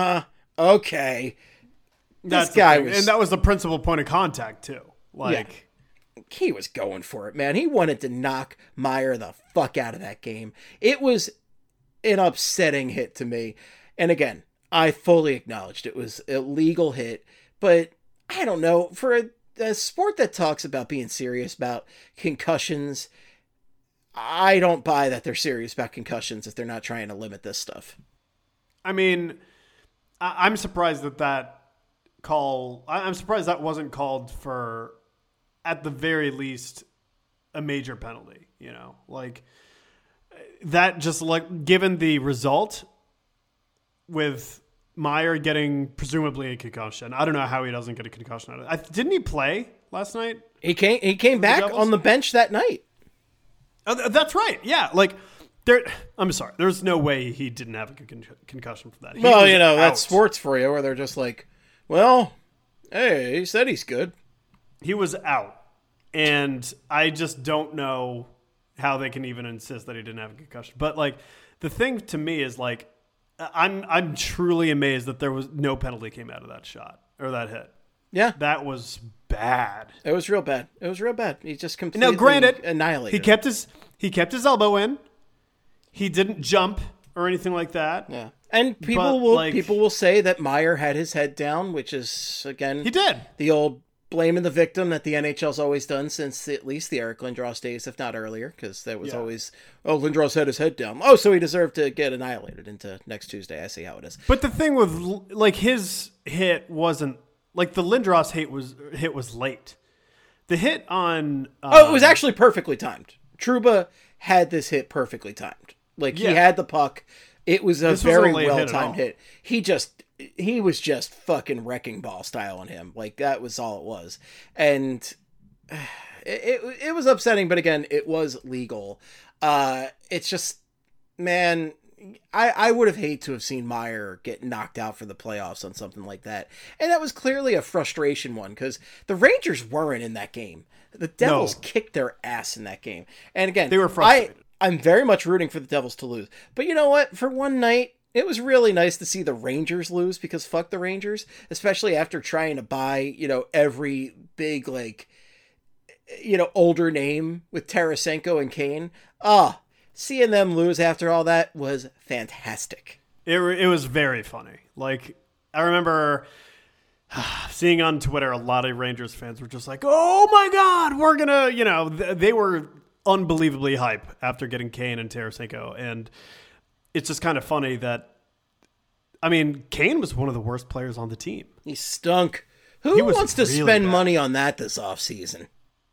Okay. This guy was... And that was the principal point of contact, too. Like... Yeah. He was going for it, man. He wanted to knock Meier the fuck out of that game. It was an upsetting hit to me. And again, I fully acknowledged it was a legal hit, but I don't know. For a sport that talks about being serious about concussions, I don't buy that they're serious about concussions if they're not trying to limit this stuff. I mean, I'm surprised that call... I'm surprised that wasn't called for... at the very least, a major penalty, like that. Just like given the result with Meier getting presumably a concussion, I don't know how he doesn't get a concussion out of it. Didn't he play last night? He came back on the bench that night. Oh, that's right. Yeah, like I'm sorry. There's no way he didn't have a concussion from that. Well, that's sports for you, where they're just like, well, hey, he said he's good. He was out, and I just don't know how they can even insist that he didn't have a concussion. But like, the thing to me is like, I'm truly amazed that there was no penalty came out of that shot or that hit. Yeah, that was bad. It was real bad. He just completely annihilated. He kept his elbow in. He didn't jump or anything like that. Yeah. And people will say that Meier had his head down, which is, again, he did. The old blaming the victim that the NHL's always done since at least the Eric Lindros days, if not earlier, because there was always, Lindros had his head down. Oh, so he deserved to get annihilated into next Tuesday. I see how it is. But the thing with, like, his hit wasn't, like, the Lindros hit was late. The hit on... it was actually perfectly timed. Trouba had this hit perfectly timed. Like, he had the puck. It was a very well-timed hit. He was just fucking wrecking ball style on him. Like, that was all it was. And it was upsetting, but again, it was legal. It's just, man, I would have hated to have seen Meyer get knocked out for the playoffs on something like that. And that was clearly a frustration one, because the Rangers weren't in that game. The Devils kicked their ass in that game. And again, they were frustrated. I'm very much rooting for the Devils to lose. But you know what? For one night, it was really nice to see the Rangers lose, because fuck the Rangers, especially after trying to buy, every big, older name with Tarasenko and Kane. Seeing them lose after all that was fantastic. It was very funny. Like, I remember seeing on Twitter, a lot of Rangers fans were just like, oh my God, we're gonna, they were unbelievably hype after getting Kane and Tarasenko. And it's just kind of funny that, I mean, Kane was one of the worst players on the team. He stunk. Who wants to spend money on that this offseason?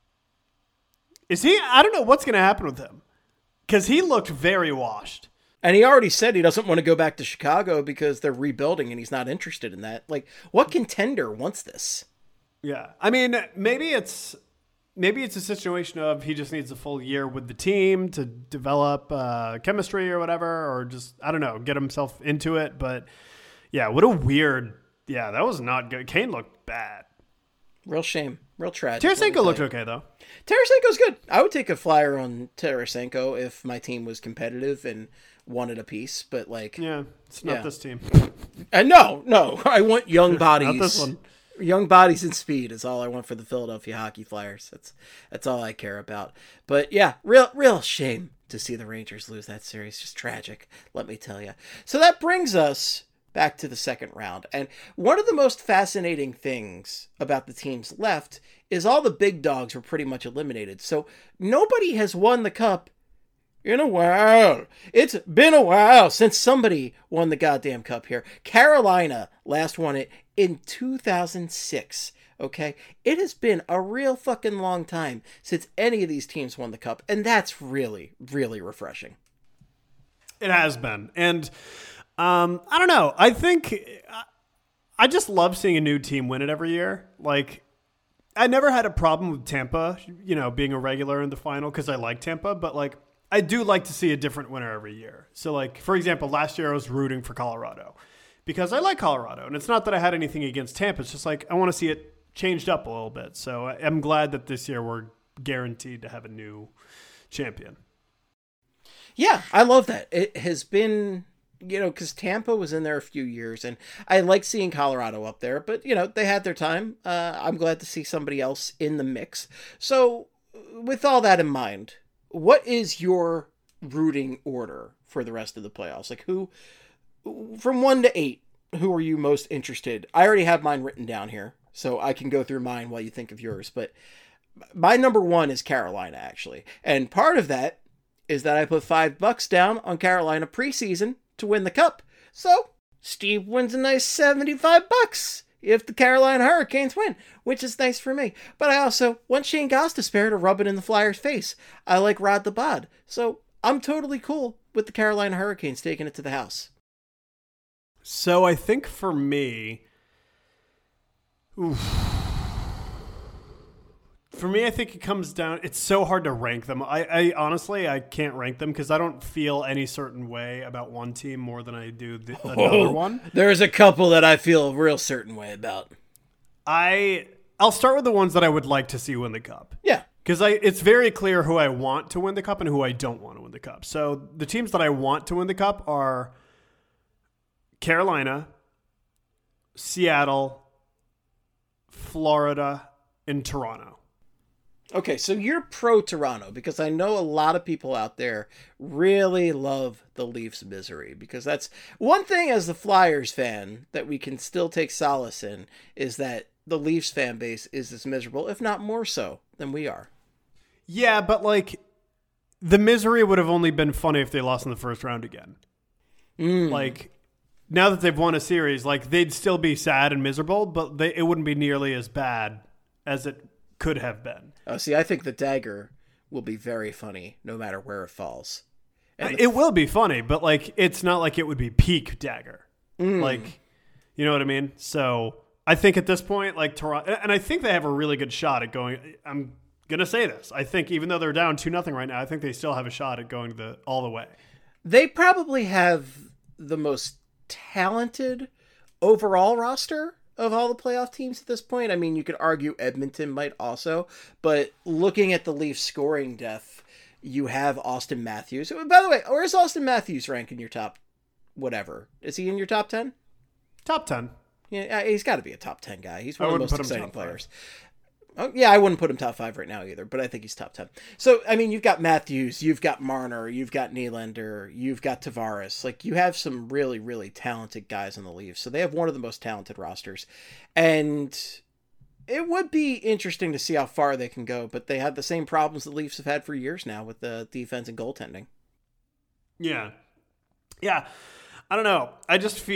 Is he? I don't know what's going to happen with him, because he looked very washed. And he already said he doesn't want to go back to Chicago because they're rebuilding and he's not interested in that. Like, what contender wants this? Yeah. I mean, maybe it's a situation of he just needs a full year with the team to develop chemistry or whatever, or just, I don't know, get himself into it. But yeah, what a weird, that was not good. Kane looked bad. Real shame. Real tragic. Tarasenko looked okay, though. Tarasenko's good. I would take a flyer on Tarasenko if my team was competitive and wanted a piece, but it's not this team. And no, I want young bodies. Not this one. Young bodies and speed is all I want for the Philadelphia Hockey Flyers. That's all I care about. But yeah, real shame to see the Rangers lose that series. Just tragic, let me tell you. So that brings us back to the second round. And one of the most fascinating things about the teams left is all the big dogs were pretty much eliminated. So nobody has won the cup in a while. It's been a while since somebody won the goddamn cup here. Carolina last won it in 2006. Okay? It has been a real fucking long time since any of these teams won the cup. And that's really, really refreshing. It has been. And I don't know. I think I just love seeing a new team win it every year. Like, I never had a problem with Tampa, being a regular in the final, because I like Tampa, but I do like to see a different winner every year. So, for example, last year I was rooting for Colorado because I like Colorado. And it's not that I had anything against Tampa. It's just I want to see it changed up a little bit. So I'm glad that this year we're guaranteed to have a new champion. Yeah, I love that. It has been, because Tampa was in there a few years, and I like seeing Colorado up there. But, they had their time. I'm glad to see somebody else in the mix. So with all that in mind, what is your rooting order for the rest of the playoffs? Who, from 1 to 8, who are you most interested? I already have mine written down here, so I can go through mine while you think of yours. But my number 1 is Carolina, actually. And part of that is that I put $5 down on Carolina preseason to win the cup. So Steve wins a nice $75 if the Carolina Hurricanes win, which is nice for me. But I also want Shane Gostisbehere to rub it in the Flyers' face. I like Rod the Bod. So I'm totally cool with the Carolina Hurricanes taking it to the house. So I think for me, I think it comes down, it's so hard to rank them. I honestly, I can't rank them because I don't feel any certain way about one team more than I do another one. There's a couple that I feel a real certain way about. I'll start with the ones that I would like to see win the cup. Yeah. Because it's very clear who I want to win the cup and who I don't want to win the cup. So the teams that I want to win the cup are Carolina, Seattle, Florida, and Toronto. Okay, so you're pro Toronto, because I know a lot of people out there really love the Leafs' misery, because that's one thing as the Flyers fan that we can still take solace in, is that the Leafs fan base is as miserable, if not more so, than we are. Yeah, but like the misery would have only been funny if they lost in the first round again. Like now that they've won a series, like they'd still be sad and miserable, but it wouldn't be nearly as bad as it could have been. Oh, see, I think the dagger will be very funny no matter where it falls. It will be funny, but like it's not like it would be peak dagger. Like, you know what I mean? So I think at this point, like Toronto, and I think they have a really good shot at going. I'm gonna say this. I think even though they're down 2-0 right now, I think they still have a shot at going all the way. They probably have the most talented overall roster of all the playoff teams at this point. I mean, you could argue Edmonton might also, but looking at the Leafs scoring depth, you have Austin Matthews. By the way, where's Austin Matthews rank in your top whatever? Is he in your top 10? Top 10. Yeah, he's got to be a top 10 guy. He's one of the most exciting players. Oh, yeah, I wouldn't put him top 5 right now either, but I think he's top 10. So, I mean, you've got Matthews, you've got Marner, you've got Nylander, you've got Tavares. Like, you have some really, really talented guys on the Leafs. So they have one of the most talented rosters. And it would be interesting to see how far they can go, but they have the same problems the Leafs have had for years now with the defense and goaltending. Yeah. Yeah. I don't know. I just think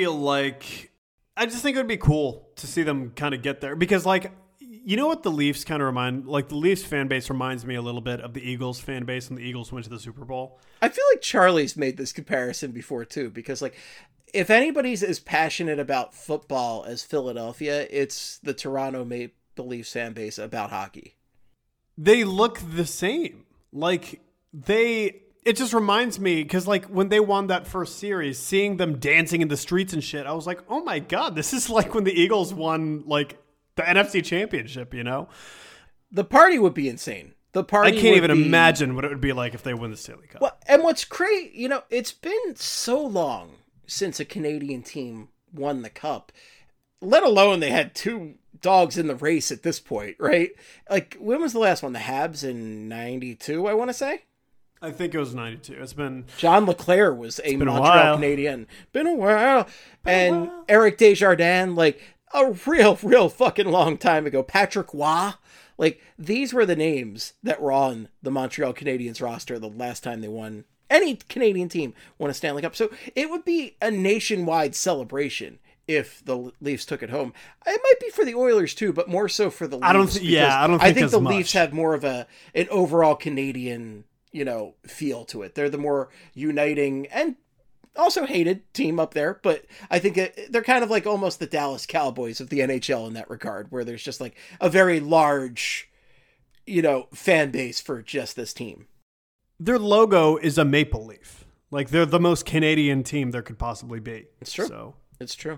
it would be cool to see them kind of get there because, like, you know what the Leafs kind of remind, like the Leafs fan base reminds me a little bit of the Eagles fan base when the Eagles went to the Super Bowl. I feel like Charlie's made this comparison before too, because like if anybody's as passionate about football as Philadelphia, it's the Toronto Maple Leafs fan base about hockey. They look the same. Like it just reminds me because like when they won that first series, seeing them dancing in the streets and shit, I was like, oh my God, this is like when the Eagles won like the NFC Championship, you know? The party would be insane. I can't even imagine what it would be like if they win the Stanley Cup. Well, and what's great, you know, it's been so long since a Canadian team won the Cup, let alone they had two dogs in the race at this point, right? Like, when was the last one? The Habs in 92, I want to say? I think it was 92. It's been... John LeClair was a Montreal Canadian. Been a while. And Eric Desjardins, like... a real fucking long time ago. Patrick Waugh. Like, these were the names that were on the Montreal Canadiens roster the last time they won. Any Canadian team won a Stanley Cup. So it would be a nationwide celebration if the Leafs took it home. It might be for the Oilers too, but more so for the Leafs. I think the Leafs have more of an overall Canadian, you know, feel to it. They're the more uniting and also hated team up there, but I think they're kind of like almost the Dallas Cowboys of the NHL in that regard, where there's just like a very large, you know, fan base for just this team. Their logo is a maple leaf. Like they're the most Canadian team there could possibly be. It's true. So it's true.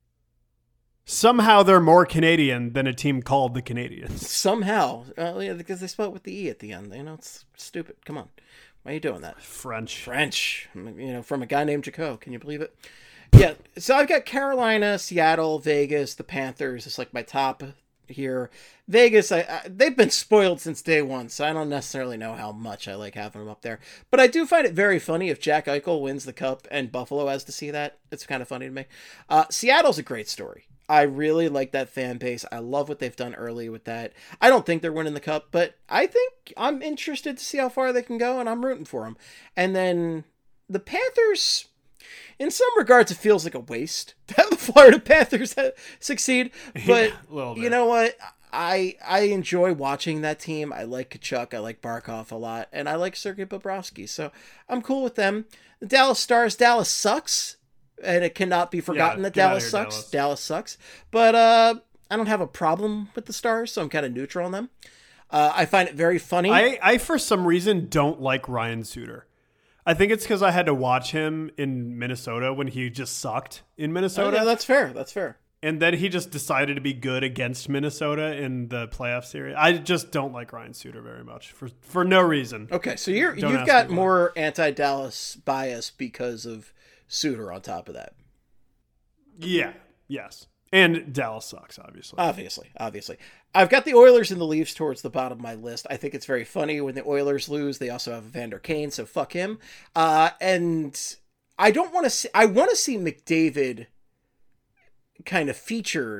Somehow they're more Canadian than a team called the Canadiens. Somehow, yeah, because they spell it with the E at the end. You know, it's stupid. Come on. Why are you doing that? French, you know, from a guy named Jaco. Can you believe it? Yeah. So I've got Carolina, Seattle, Vegas, the Panthers. It's like my top here. Vegas, they've been spoiled since day one, so I don't necessarily know how much I like having them up there. But I do find it very funny if Jack Eichel wins the Cup and Buffalo has to see that. It's kind of funny to me. Seattle's a great story. I really like that fan base. I love what they've done early with that. I don't think they're winning the Cup, but I think I'm interested to see how far they can go, and I'm rooting for them. And then the Panthers, in some regards, it feels like a waste to have the Florida Panthers succeed. But you know what? I enjoy watching that team. I like Kachuk. I like Barkov a lot. And I like Sergei Bobrovsky. So I'm cool with them. The Dallas Stars, Dallas sucks. And it cannot be forgotten that Dallas sucks. Dallas sucks. But I don't have a problem with the Stars, so I'm kind of neutral on them. I find it very funny. I for some reason, don't like Ryan Suter. I think it's because I had to watch him in Minnesota when he just sucked in Minnesota. Oh, yeah, that's fair. That's fair. And then he just decided to be good against Minnesota in the playoff series. I just don't like Ryan Suter very much for no reason. Okay, so you've got more anti-Dallas bias because of Suter on top of that. Yeah. Yes. And Dallas sucks, obviously. Obviously. I've got the Oilers and the Leafs towards the bottom of my list. I think it's very funny when the Oilers lose. They also have Evander Kane, so fuck him. And I don't want to see... I want to see McDavid kind of featured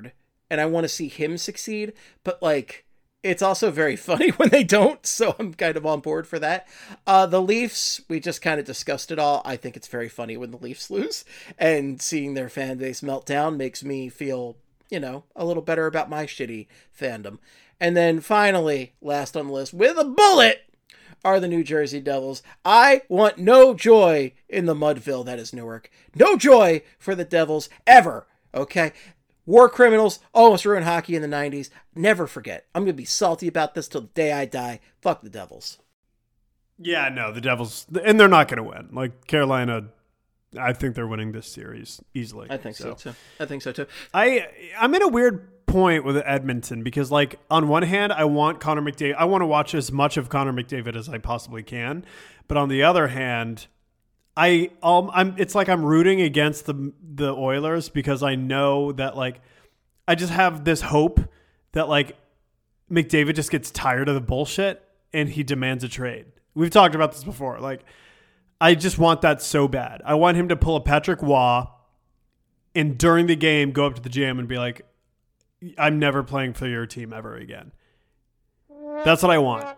and I want to see him succeed, but like it's also very funny when they don't, so I'm kind of on board for that. The Leafs, we just kind of discussed it all. I think it's very funny when the Leafs lose, and seeing their fan base melt down makes me feel, a little better about my shitty fandom. And then finally, last on the list, with a bullet, are the New Jersey Devils. I want no joy in the Mudville that is Newark. No joy for the Devils ever, okay? War criminals almost ruined hockey in the 90s. Never forget. I'm going to be salty about this till the day I die. Fuck the Devils. Yeah, no, the Devils, and they're not going to win. Like, Carolina, I think they're winning this series easily. I think so too. I'm in a weird point with Edmonton because, like, on one hand, I want Connor McDavid. I want to watch as much of Connor McDavid as I possibly can. But on the other hand, it's like I'm rooting against the Oilers because I know that, like, I just have this hope that, like, McDavid just gets tired of the bullshit and he demands a trade. We've talked about this before. Like, I just want that so bad. I want him to pull a Patrick Waugh and during the game go up to the GM and be like, I'm never playing for your team ever again. That's what I want.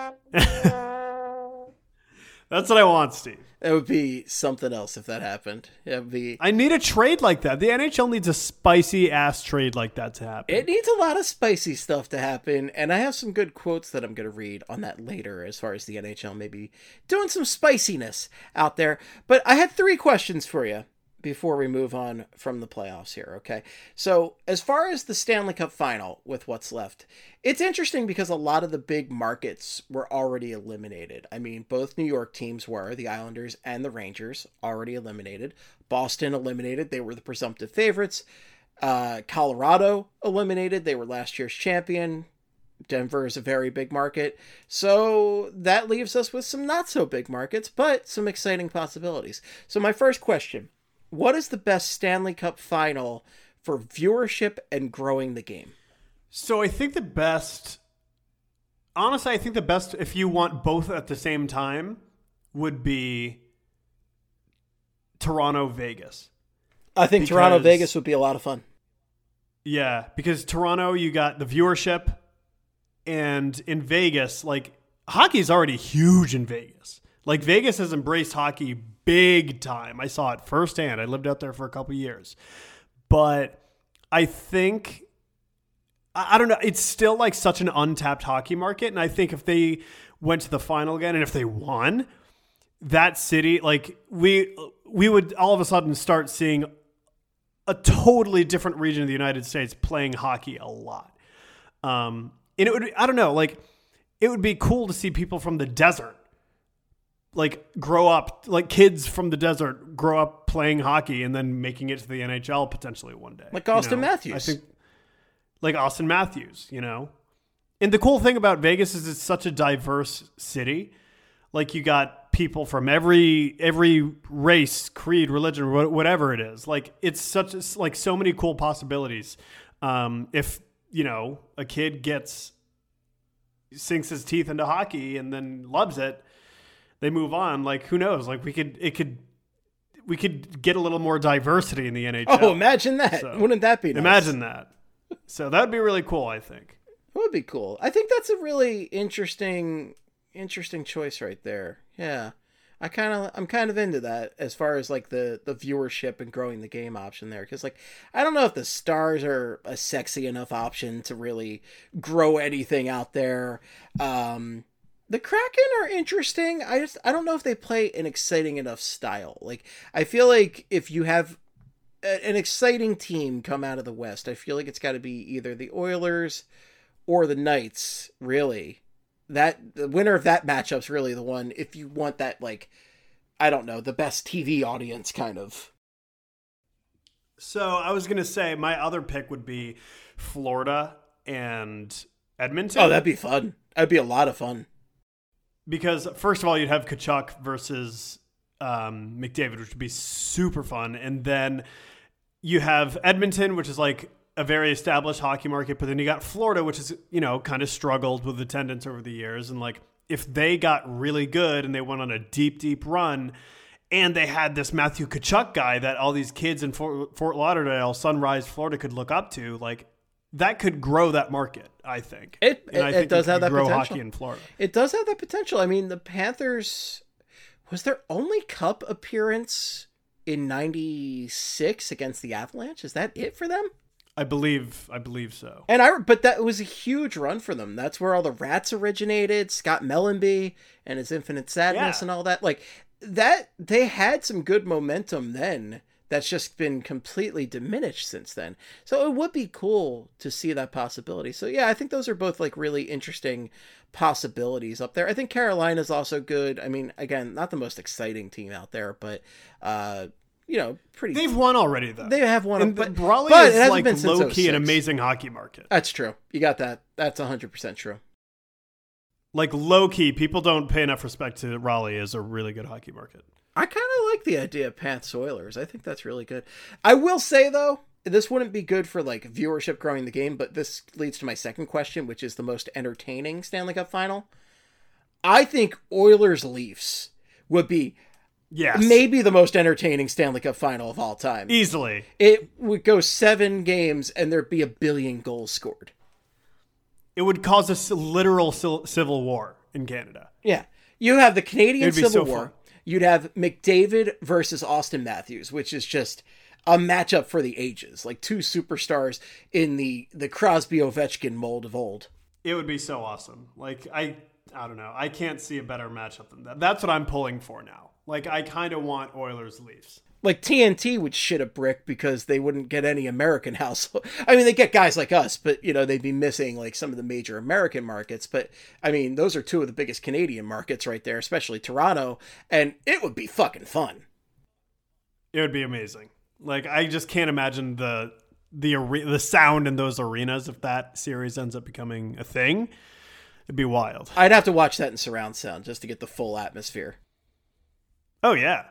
That's what I want, Steve. It would be something else if that happened. I need a trade like that. The NHL needs a spicy-ass trade like that to happen. It needs a lot of spicy stuff to happen, and I have some good quotes that I'm going to read on that later as far as the NHL maybe doing some spiciness out there. But I had 3 questions for you before we move on from the playoffs here, okay? So as far as the Stanley Cup final with what's left, it's interesting because a lot of the big markets were already eliminated. I mean, both New York teams were, the Islanders and the Rangers, already eliminated. Boston eliminated. They were the presumptive favorites. Colorado eliminated. They were last year's champion. Denver is a very big market. So that leaves us with some not so big markets, but some exciting possibilities. So my first question, what is the best Stanley Cup final for viewership and growing the game? So I think the best, if you want both at the same time, would be Toronto-Vegas. I think Toronto-Vegas would be a lot of fun. Yeah, because Toronto, you got the viewership, and in Vegas, like, hockey is already huge in Vegas. Like, Vegas has embraced hockey big time. I saw it firsthand. I lived out there for a couple years. But I think, I don't know, it's still like such an untapped hockey market. And I think if they went to the final again and if they won, that city, like, we would all of a sudden start seeing a totally different region of the United States playing hockey a lot. And it would, I don't know, like, it would be cool to see people from the desert like grow up, like kids from the desert grow up playing hockey and then making it to the NHL potentially one day. Like Austin Matthews. I think like Austin Matthews, And the cool thing about Vegas is it's such a diverse city. Like, you got people from every race, creed, religion, whatever it is. Like, it's so many cool possibilities. If, a kid sinks his teeth into hockey and then loves it, they move on. Like, who knows? Like, we could get a little more diversity in the NHL. Oh, imagine that. So, wouldn't that be nice? Imagine that. So that would be really cool, I think. It would be cool. I think that's a really interesting choice right there. Yeah. I'm kind of into that as far as like the viewership and growing the game option there. Cause like, I don't know if the Stars are a sexy enough option to really grow anything out there. The Kraken are interesting. I don't know if they play an exciting enough style. Like, I feel like if you have an exciting team come out of the West, I feel like it's got to be either the Oilers or the Knights, really. The winner of that matchup's really the one, if you want that, like, I don't know, the best TV audience kind of. So I was going to say my other pick would be Florida and Edmonton. Oh, that'd be fun. That'd be a lot of fun. Because, first of all, you'd have Tkachuk versus McDavid, which would be super fun. And then you have Edmonton, which is like a very established hockey market. But then you got Florida, which is, kind of struggled with attendance over the years. And, like, if they got really good and they went on a deep, deep run and they had this Matthew Tkachuk guy that all these kids in Fort Lauderdale, Sunrise, Florida could look up to, like, that could grow that market, I think. It does have that grow potential. hockey in Florida. It does have that potential. I mean, the Panthers, was their only cup appearance in 96 against the Avalanche? Is that it for them? I believe so. But that was a huge run for them. That's where all the Rats originated, Scott Mellenby and his Infinite Sadness and all that. Like that, they had some good momentum then. That's just been completely diminished since then. So it would be cool to see that possibility. So yeah, I think those are both like really interesting possibilities up there. I think Carolina's also good. I mean, again, not the most exciting team out there, but pretty. They've won already though. They have won, but Raleigh is like low key an 06. amazing hockey market. That's true. You got that. That's 100% true. Like low key, people don't pay enough respect to Raleigh as a really good hockey market. I kind of like the idea of Panthers Oilers. I think that's really good. I will say, though, this wouldn't be good for like viewership growing the game, but this leads to my second question, which is the most entertaining Stanley Cup final. I think Oilers Leafs would be maybe the most entertaining Stanley Cup final of all time. Easily. It would go 7 games and there'd be 1 billion goals scored. It would cause a literal civil war in Canada. Yeah. You have the Canadian Civil War. Fun. You'd have McDavid versus Austin Matthews, which is just a matchup for the ages. Like 2 superstars in the Crosby-Ovechkin mold of old. It would be so awesome. Like, I don't know. I can't see a better matchup than that. That's what I'm pulling for now. Like, I kind of want Oilers-Leafs. Like, TNT would shit a brick because they wouldn't get any American household. I mean, they get guys like us, but, they'd be missing, like, some of the major American markets. But, I mean, those are 2 of the biggest Canadian markets right there, especially Toronto. And it would be fucking fun. It would be amazing. Like, I just can't imagine the sound in those arenas if that series ends up becoming a thing. It'd be wild. I'd have to watch that in surround sound just to get the full atmosphere. Oh, yeah.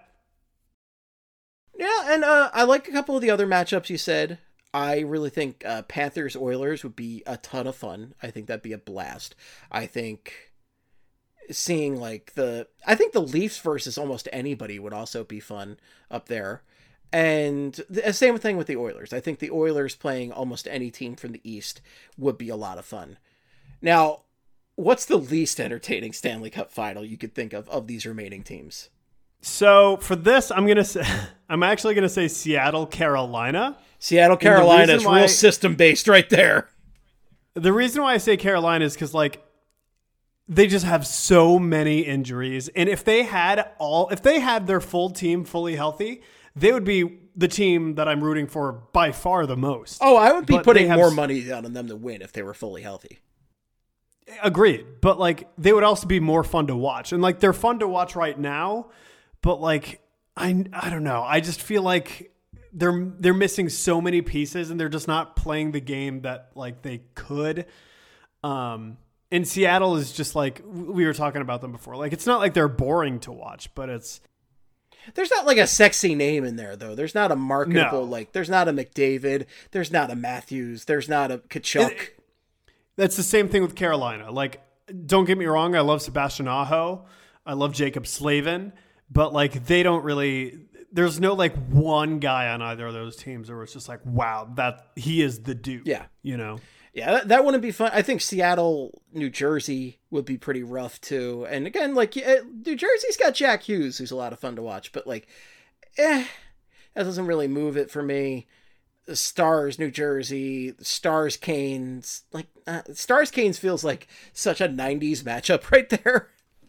Yeah, and I like a couple of the other matchups you said. I really think Panthers-Oilers would be a ton of fun. I think that'd be a blast. I think seeing I think the Leafs versus almost anybody would also be fun up there. And the same thing with the Oilers. I think the Oilers playing almost any team from the East would be a lot of fun. Now, what's the least entertaining Stanley Cup final you could think of these remaining teams? So for this, I'm actually gonna say Seattle, Carolina. Seattle, Carolina is real system based right there. The reason why I say Carolina is because they just have so many injuries, and if they had their full team fully healthy, they would be the team that I'm rooting for by far the most. Oh, I would be putting more money down on them to win if they were fully healthy. Agreed, but they would also be more fun to watch, and they're fun to watch right now. But I don't know. I just feel like they're missing so many pieces, and they're just not playing the game that they could. And Seattle is just we were talking about them before. It's not like they're boring to watch, but there's not a sexy name in there though. There's not a marketable there's not a McDavid, there's not a Matthews, there's not a Kachuk. That's the same thing with Carolina. Don't get me wrong, I love Sebastian Aho, I love Jacob Slavin. But they don't really. There's no one guy on either of those teams where it's just wow, that he is the dude. Yeah, Yeah, that wouldn't be fun. I think Seattle, New Jersey would be pretty rough too. And again, New Jersey's got Jack Hughes, who's a lot of fun to watch. But that doesn't really move it for me. The Stars, New Jersey, Stars, Canes. Stars, Canes feels like such a '90s matchup right there.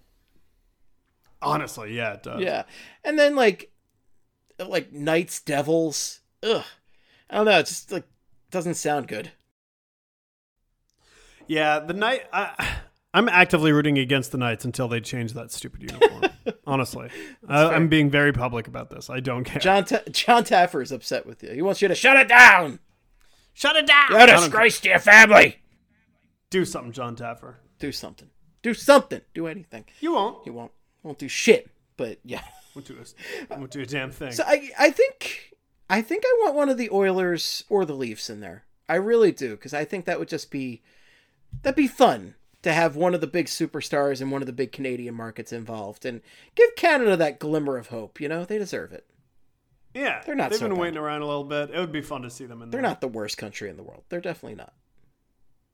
Honestly, yeah, it does. Yeah. And then Knights, Devils. Ugh. I don't know, it just doesn't sound good. Yeah, the Knight I'm actively rooting against the Knights until they change that stupid uniform. Honestly. I'm being very public about this. I don't care. John Taffer is upset with you. He wants you to shut it down. Shut it down. You're a disgrace to your family. Do something, John Taffer. Do something. Do something. Do anything. You won't. You won't do shit, but yeah. Won't do a damn thing. So I think I want one of the Oilers or the Leafs in there. I really do, because I think that would just that'd be fun to have one of the big superstars in one of the big Canadian markets involved and give Canada that glimmer of hope. They deserve it. Yeah. They're not. They've been waiting around a little bit. It would be fun to see them in there. They're not the worst country in the world. They're definitely not.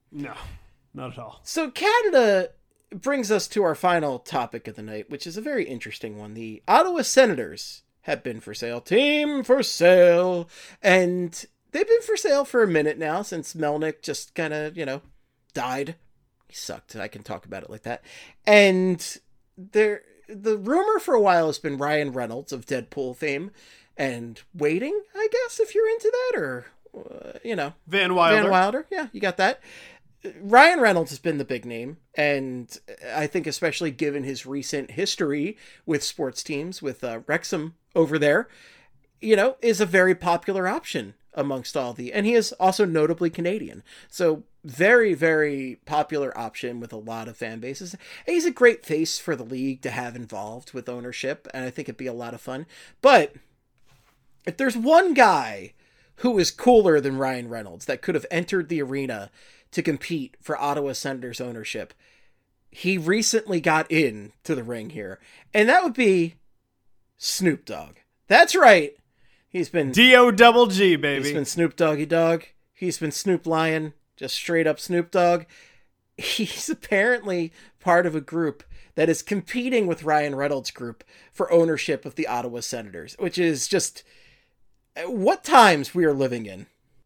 No, not at all. So Canada brings us to our final topic of the night, which is a very interesting one. The Ottawa Senators have been for sale. Team for sale. And they've been for sale for a minute now since Melnyk just kind of, died. He sucked. I can talk about it like that. And the rumor for a while has been Ryan Reynolds of Deadpool fame and Waiting, I guess, if you're into that, or, Van Wilder. Van Wilder. Yeah, you got that. Ryan Reynolds has been the big name, and I think especially given his recent history with sports teams, with Wrexham over there, is a very popular option amongst and he is also notably Canadian. So very, very popular option with a lot of fan bases. And he's a great face for the league to have involved with ownership, and I think it'd be a lot of fun. But if there's one guy who is cooler than Ryan Reynolds that could have entered the arena to compete for Ottawa Senators ownership, he recently got in to the ring here, and that would be Snoop Dogg. That's right. He's been D-O-double-G, baby. He's been Snoop Doggy Dogg. He's been Snoop Lion, just straight up Snoop Dogg. He's apparently part of a group that is competing with Ryan Reynolds' group for ownership of the Ottawa Senators, which is just what times we are living in.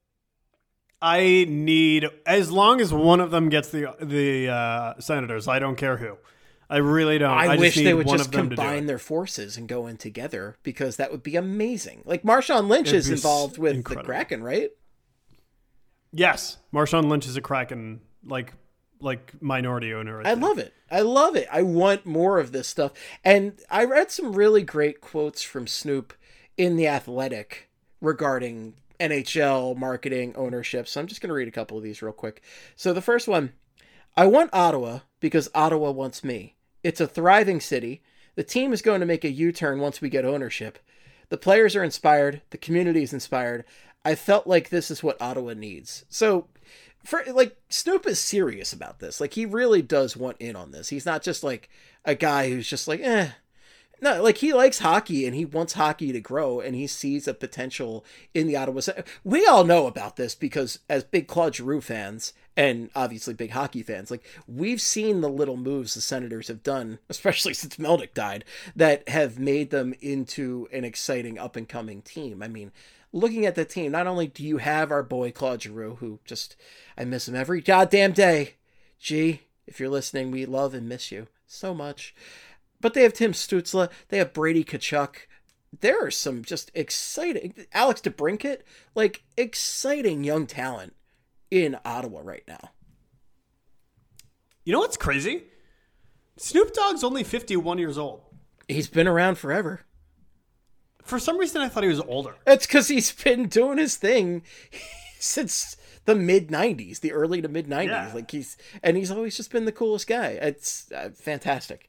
I need, as long as one of them gets the Senators, I don't care who. I really don't. I wish they would just combine their forces and go in together, because that would be amazing. Like Marshawn Lynch is involved with the Kraken, right? Yes, Marshawn Lynch is a Kraken like minority owner. I love it. I love it. I want more of this stuff. And I read some really great quotes from Snoop in The Athletic regarding NHL marketing ownership. So I'm just going to read a couple of these real quick. So the first one, I want Ottawa because Ottawa wants me. It's a thriving city. The team is going to make a U-turn once we get ownership. The players are inspired. The community is inspired. I felt like this is what Ottawa needs. So Snoop is serious about this. Like, he really does want in on this. He's not just like a guy who's just like, No, like, he likes hockey and he wants hockey to grow, and he sees a potential in the Ottawa. We all know about this because as big Claude Giroux fans and obviously big hockey fans, like, we've seen the little moves the Senators have done, especially since Melnyk died, that have made them into an exciting up and coming team. I mean, looking at the team, not only do you have our boy Claude Giroux, who just, I miss him every goddamn day. G, if you're listening, we love and miss you so much. But they have Tim Stützle. They have Brady Tkachuk. There are some just exciting... Alex DeBrincat. Like, exciting young talent in Ottawa right now. You know what's crazy? Snoop Dogg's only 51 years old. He's been around forever. For some reason, I thought he was older. It's because he's been doing his thing since the mid-90s, the early to mid-90s. Yeah. Like, he's always just been the coolest guy. It's fantastic.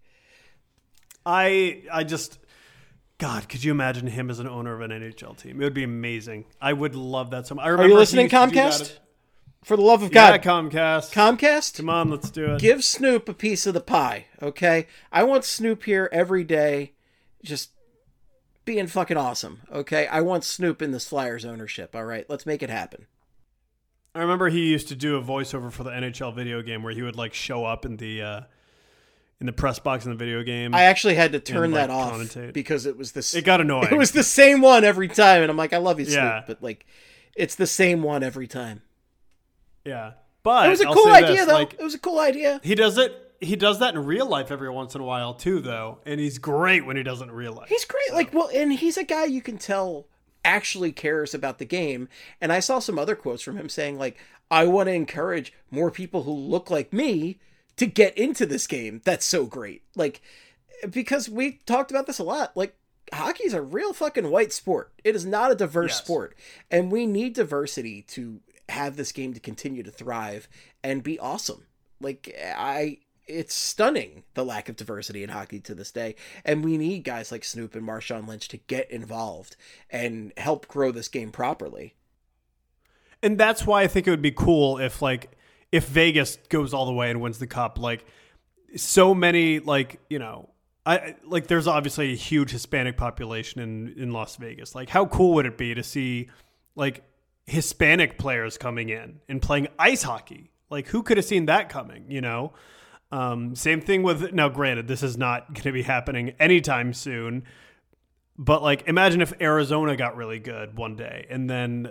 I just, God, could you imagine him as an owner of an NHL team? It would be amazing. I would love that so much. Are you listening, Comcast? For the love of God. Yeah, Comcast. Comcast? Come on, let's do it. Give Snoop a piece of the pie, okay? I want Snoop here every day, just being fucking awesome, okay? I want Snoop in this Flyers ownership, all right? Let's make it happen. I remember he used to do a voiceover for the NHL video game where he would, like, show up in the press box in the video game. I actually had to turn that off because it was it got annoying. It was the same one every time, and I'm like, I love you, Snoop, but like, it's the same one every time. Yeah, but it was a cool idea, though. Like, it was a cool idea. He does that in real life every once in a while too, though, and he's great when he does it in real life. He's great, so. And he's a guy you can tell actually cares about the game. And I saw some other quotes from him saying, like, I want to encourage more people who look like me to get into this game. That's so great. Like, because we talked about this a lot. Like, hockey's a real fucking white sport. It is not a diverse sport. And we need diversity to have this game to continue to thrive and be awesome. Like, it's stunning, the lack of diversity in hockey to this day. And we need guys like Snoop and Marshawn Lynch to get involved and help grow this game properly. And that's why I think it would be cool if Vegas goes all the way and wins the cup. Like, so many, there's obviously a huge Hispanic population in Las Vegas. Like, how cool would it be to see, like, Hispanic players coming in and playing ice hockey? Like, who could have seen that coming, you know? Same thing with, now granted, this is not going to be happening anytime soon, but like, imagine if Arizona got really good one day, and then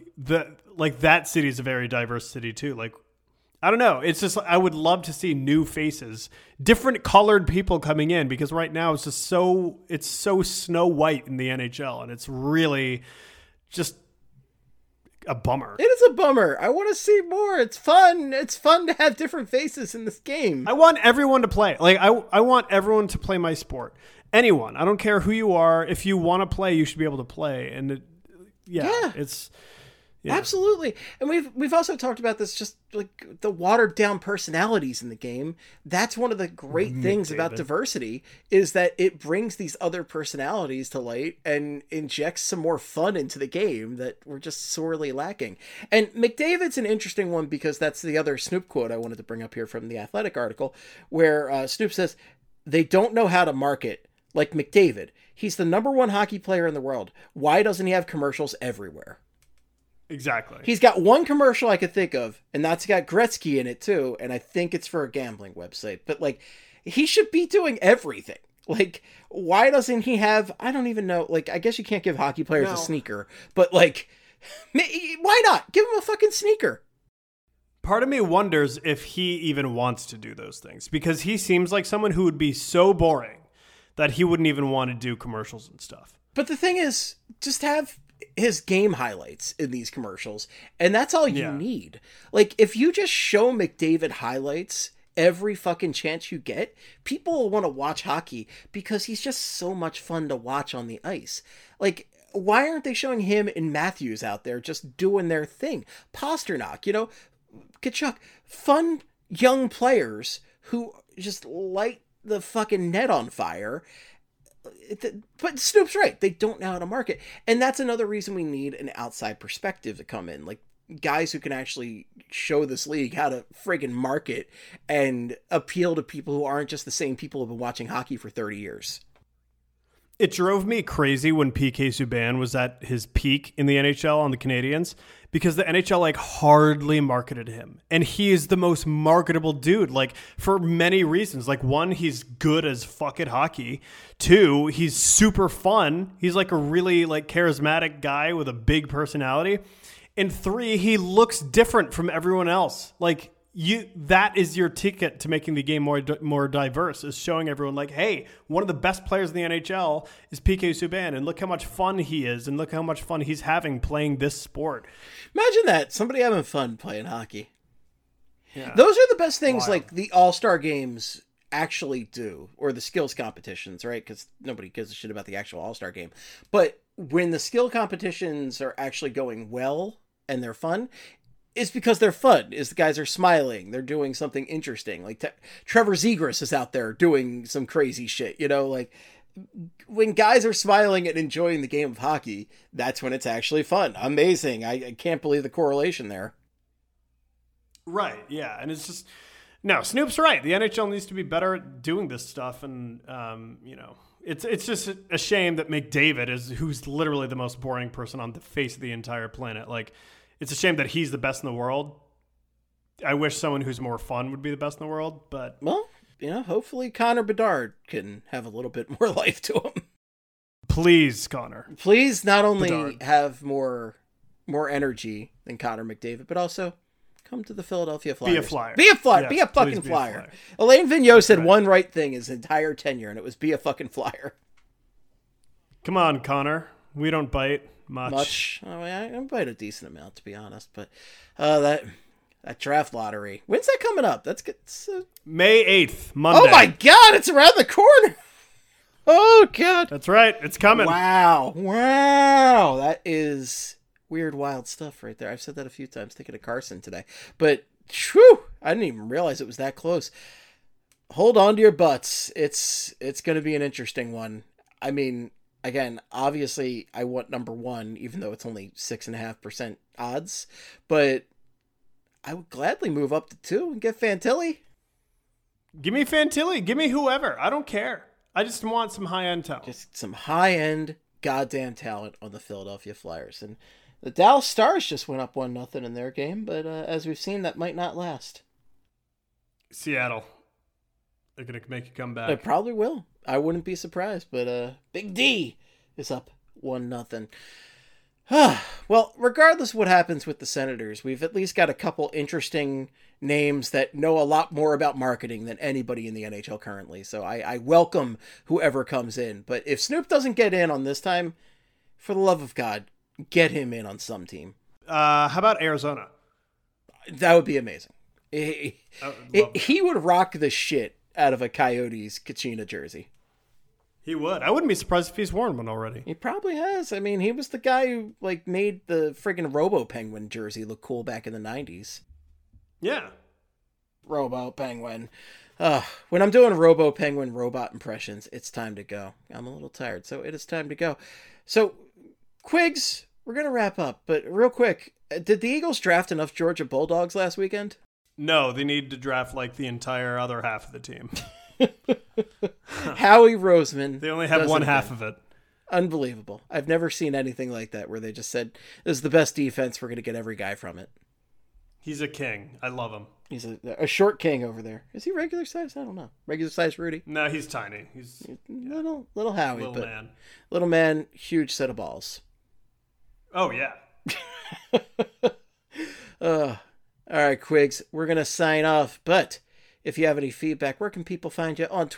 that city is a very diverse city too. Like, I don't know. It's just, I would love to see new faces, different colored people coming in, because right now it's just it's so snow white in the NHL, and it's really just a bummer. It is a bummer. I want to see more. It's fun. It's fun to have different faces in this game. I want everyone to play. Like, I want everyone to play my sport. Anyone. I don't care who you are. If you want to play, you should be able to play. And it's... Yeah. Absolutely. And we've also talked about this, just like the watered down personalities in the game. That's one of the great things about diversity, is that it brings these other personalities to light and injects some more fun into the game that we're just sorely lacking. And McDavid's an interesting one, because that's the other Snoop quote I wanted to bring up here from the Athletic article, where Snoop says, "They don't know how to market like McDavid. He's the #1 hockey player in the world. Why doesn't he have commercials everywhere?" Exactly. He's got one commercial I could think of, and that's got Gretzky in it too, and I think it's for a gambling website. But like, he should be doing everything. Like, why doesn't he have, I don't even know, like, I guess you can't give hockey players a sneaker, but like, why not? Give him a fucking sneaker. Part of me wonders if he even wants to do those things, because he seems like someone who would be so boring that he wouldn't even want to do commercials and stuff. But the thing is, just have his game highlights in these commercials, and that's all you need. Like, if you just show McDavid highlights every fucking chance you get, people will want to watch hockey, because he's just so much fun to watch on the ice. Like, why aren't they showing him and Matthews out there just doing their thing? Pasternak, you know, Tkachuk, fun young players who just light the fucking net on fire. But Snoop's right. They don't know how to market. And that's another reason we need an outside perspective to come in. Like, guys who can actually show this league how to friggin' market and appeal to people who aren't just the same people who've been watching hockey for 30 years. It drove me crazy when PK Subban was at his peak in the NHL on the Canadiens, because the NHL like hardly marketed him. And he is the most marketable dude, like, for many reasons. Like, one, he's good as fuck at hockey. Two, he's super fun. He's like a really like charismatic guy with a big personality. And three, he looks different from everyone else. Like, that is your ticket to making the game more diverse, is showing everyone like, hey, one of the best players in the NHL is PK Subban, and look how much fun he is, and look how much fun he's having playing this sport. Imagine that, somebody having fun playing hockey. Yeah. Those are the best things. Wild. Like the All-Star games actually do, or the skills competitions, right? Because nobody gives a shit about the actual All-Star game. But when the skill competitions are actually going well and they're fun, it's because they're fun. Is the guys are smiling. They're doing something interesting. Like Trevor Zegras is out there doing some crazy shit. You know, like when guys are smiling and enjoying the game of hockey, that's when it's actually fun. Amazing. I can't believe the correlation there. Right. Yeah. And it's just, no, Snoop's right. The NHL needs to be better at doing this stuff. And, you know, it's just a shame that McDavid who's literally the most boring person on the face of the entire planet. Like, it's a shame that he's the best in the world. I wish someone who's more fun would be the best in the world, but... Well, you know, hopefully Connor Bedard can have a little bit more life to him. Please, Connor. Please not only Bedard. Have more energy than Connor McDavid, but also come to the Philadelphia Flyers. Be a Flyer. Be a Flyer. Yes, be a fucking Flyer. Alain Vigneault said one right thing his entire tenure, and it was be a fucking Flyer. Come on, Connor. We don't bite much. I mean, I bite a decent amount, to be honest, but that draft lottery. When's that coming up? That's good. May 8th, Monday. Oh my God, it's around the corner. Oh God. That's right. It's coming. Wow. That is weird, wild stuff right there. I've said that a few times thinking of Carson today, but whew, I didn't even realize it was that close. Hold on to your butts. It's going to be an interesting one. I mean, again, obviously I want #1, even though it's only 6.5% odds, but I would gladly move up to 2 and get Fantilli. Give me Fantilli. Give me whoever. I don't care. I just want some high-end talent. Just some high-end goddamn talent on the Philadelphia Flyers. And The Dallas Stars just went up 1-0 in their game, but as we've seen, that might not last. Seattle. They're going to make you come back. They probably will. I wouldn't be surprised, but Big D is up 1-0. Well, regardless of what happens with the Senators, we've at least got a couple interesting names that know a lot more about marketing than anybody in the NHL currently. So I welcome whoever comes in. But if Snoop doesn't get in on this time, for the love of God, get him in on some team. How about Arizona? That would be amazing. He would rock the shit out of a Coyotes Kachina jersey. He would. I wouldn't be surprised if he's worn one already. He probably has. I mean, he was the guy who made the friggin' Robo Penguin jersey look cool back in the 90s. Yeah. Robo Penguin. When I'm doing Robo Penguin robot impressions, it's time to go. I'm a little tired, so it is time to go. So, Quigs, we're going to wrap up, but real quick, did the Eagles draft enough Georgia Bulldogs last weekend? No, they need to draft the entire other half of the team. Howie Roseman. They only have one half of it. Unbelievable. I've never seen anything like that where they just said, this is the best defense, we're going to get every guy from it. He's a king. I love him. He's a short king over there. Is he regular size? I don't know. Regular size Rudy? No, he's tiny. He's little Howie. Little man. Little man, huge set of balls. Oh, yeah. All right, Quigs, we're going to sign off, but if you have any feedback, where can people find you? On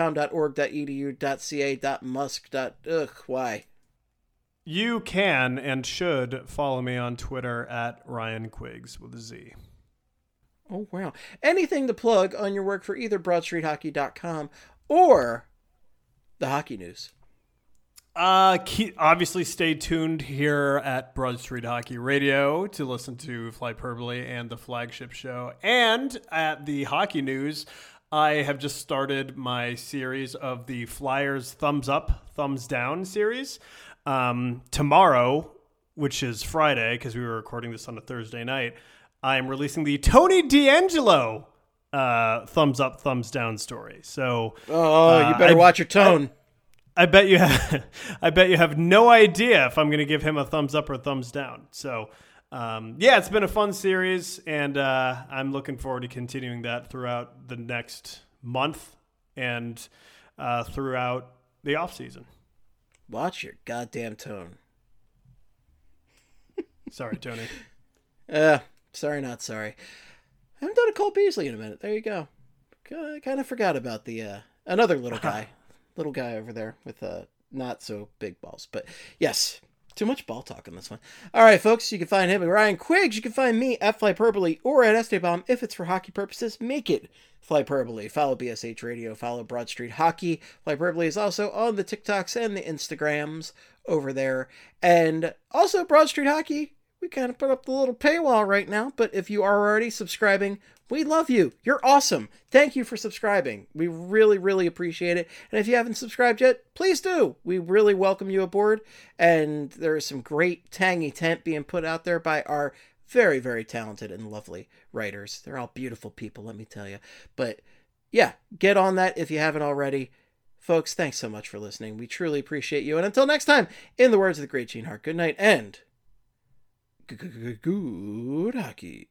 twitter.com.org.edu.ca.musk. Why? You can and should follow me on Twitter at Ryan Quiggs with a Z. Oh, wow. Anything to plug on your work for either BroadStreetHockey.com or the Hockey News? Obviously stay tuned here at Broad Street Hockey Radio to listen to Flyperbole and the flagship show. And at the Hockey News, I have just started my series of the Flyers Thumbs Up, Thumbs Down series. Tomorrow, which is Friday, because we were recording this on a Thursday night, I'm releasing the Tony D'Angelo Thumbs Up, Thumbs Down story. So, you better watch your tone. I bet you have no idea if I'm going to give him a thumbs up or a thumbs down. So, it's been a fun series, and I'm looking forward to continuing that throughout the next month and throughout the off season. Watch your goddamn tone. Sorry, Tony. Sorry, not sorry. I haven't done a Cole Beasley in a minute. There you go. I kind of forgot about the another little guy. Little guy over there with not so big balls. But yes, too much ball talk on this one. All right, folks, you can find him at Ryan Quiggs. You can find me at Flyperbole or at Esteban. If it's for hockey purposes, make it Flyperbole. Follow BSH Radio. Follow Broad Street Hockey. Flyperbole is also on the TikToks and the Instagrams over there. And also Broad Street Hockey. We kind of put up the little paywall right now, but if you are already subscribing, we love you. You're awesome. Thank you for subscribing. We really, really appreciate it. And if you haven't subscribed yet, please do. We really welcome you aboard. And there is some great tangy tent being put out there by our very, very talented and lovely writers. They're all beautiful people, let me tell you. But yeah, get on that if you haven't already. Folks, thanks so much for listening. We truly appreciate you. And until next time, in the words of the great Gene Hart, good night and good hockey.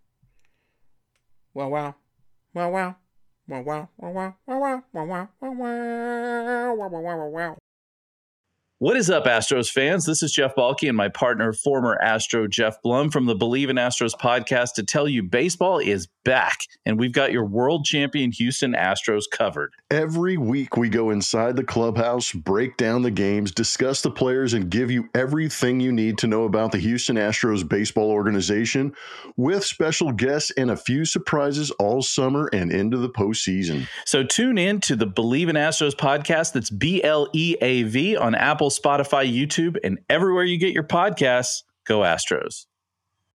Wow, wow. Wow, wow. Wow, wow. Wow, wow. Wow, wow. Wow, wow. Wow, wow. Wow, wow, wow, wow. What is up, Astros fans? This is Jeff Balke and my partner, former Astro Jeff Blum from the Believe in Astros podcast to tell you baseball is back, and we've got your world champion Houston Astros covered. Every week we go inside the clubhouse, break down the games, discuss the players, and give you everything you need to know about the Houston Astros baseball organization with special guests and a few surprises all summer and into the postseason. So tune in to the Believe in Astros podcast. That's BLEAV on Apple, Spotify, YouTube, and everywhere you get your podcasts. Go Astros.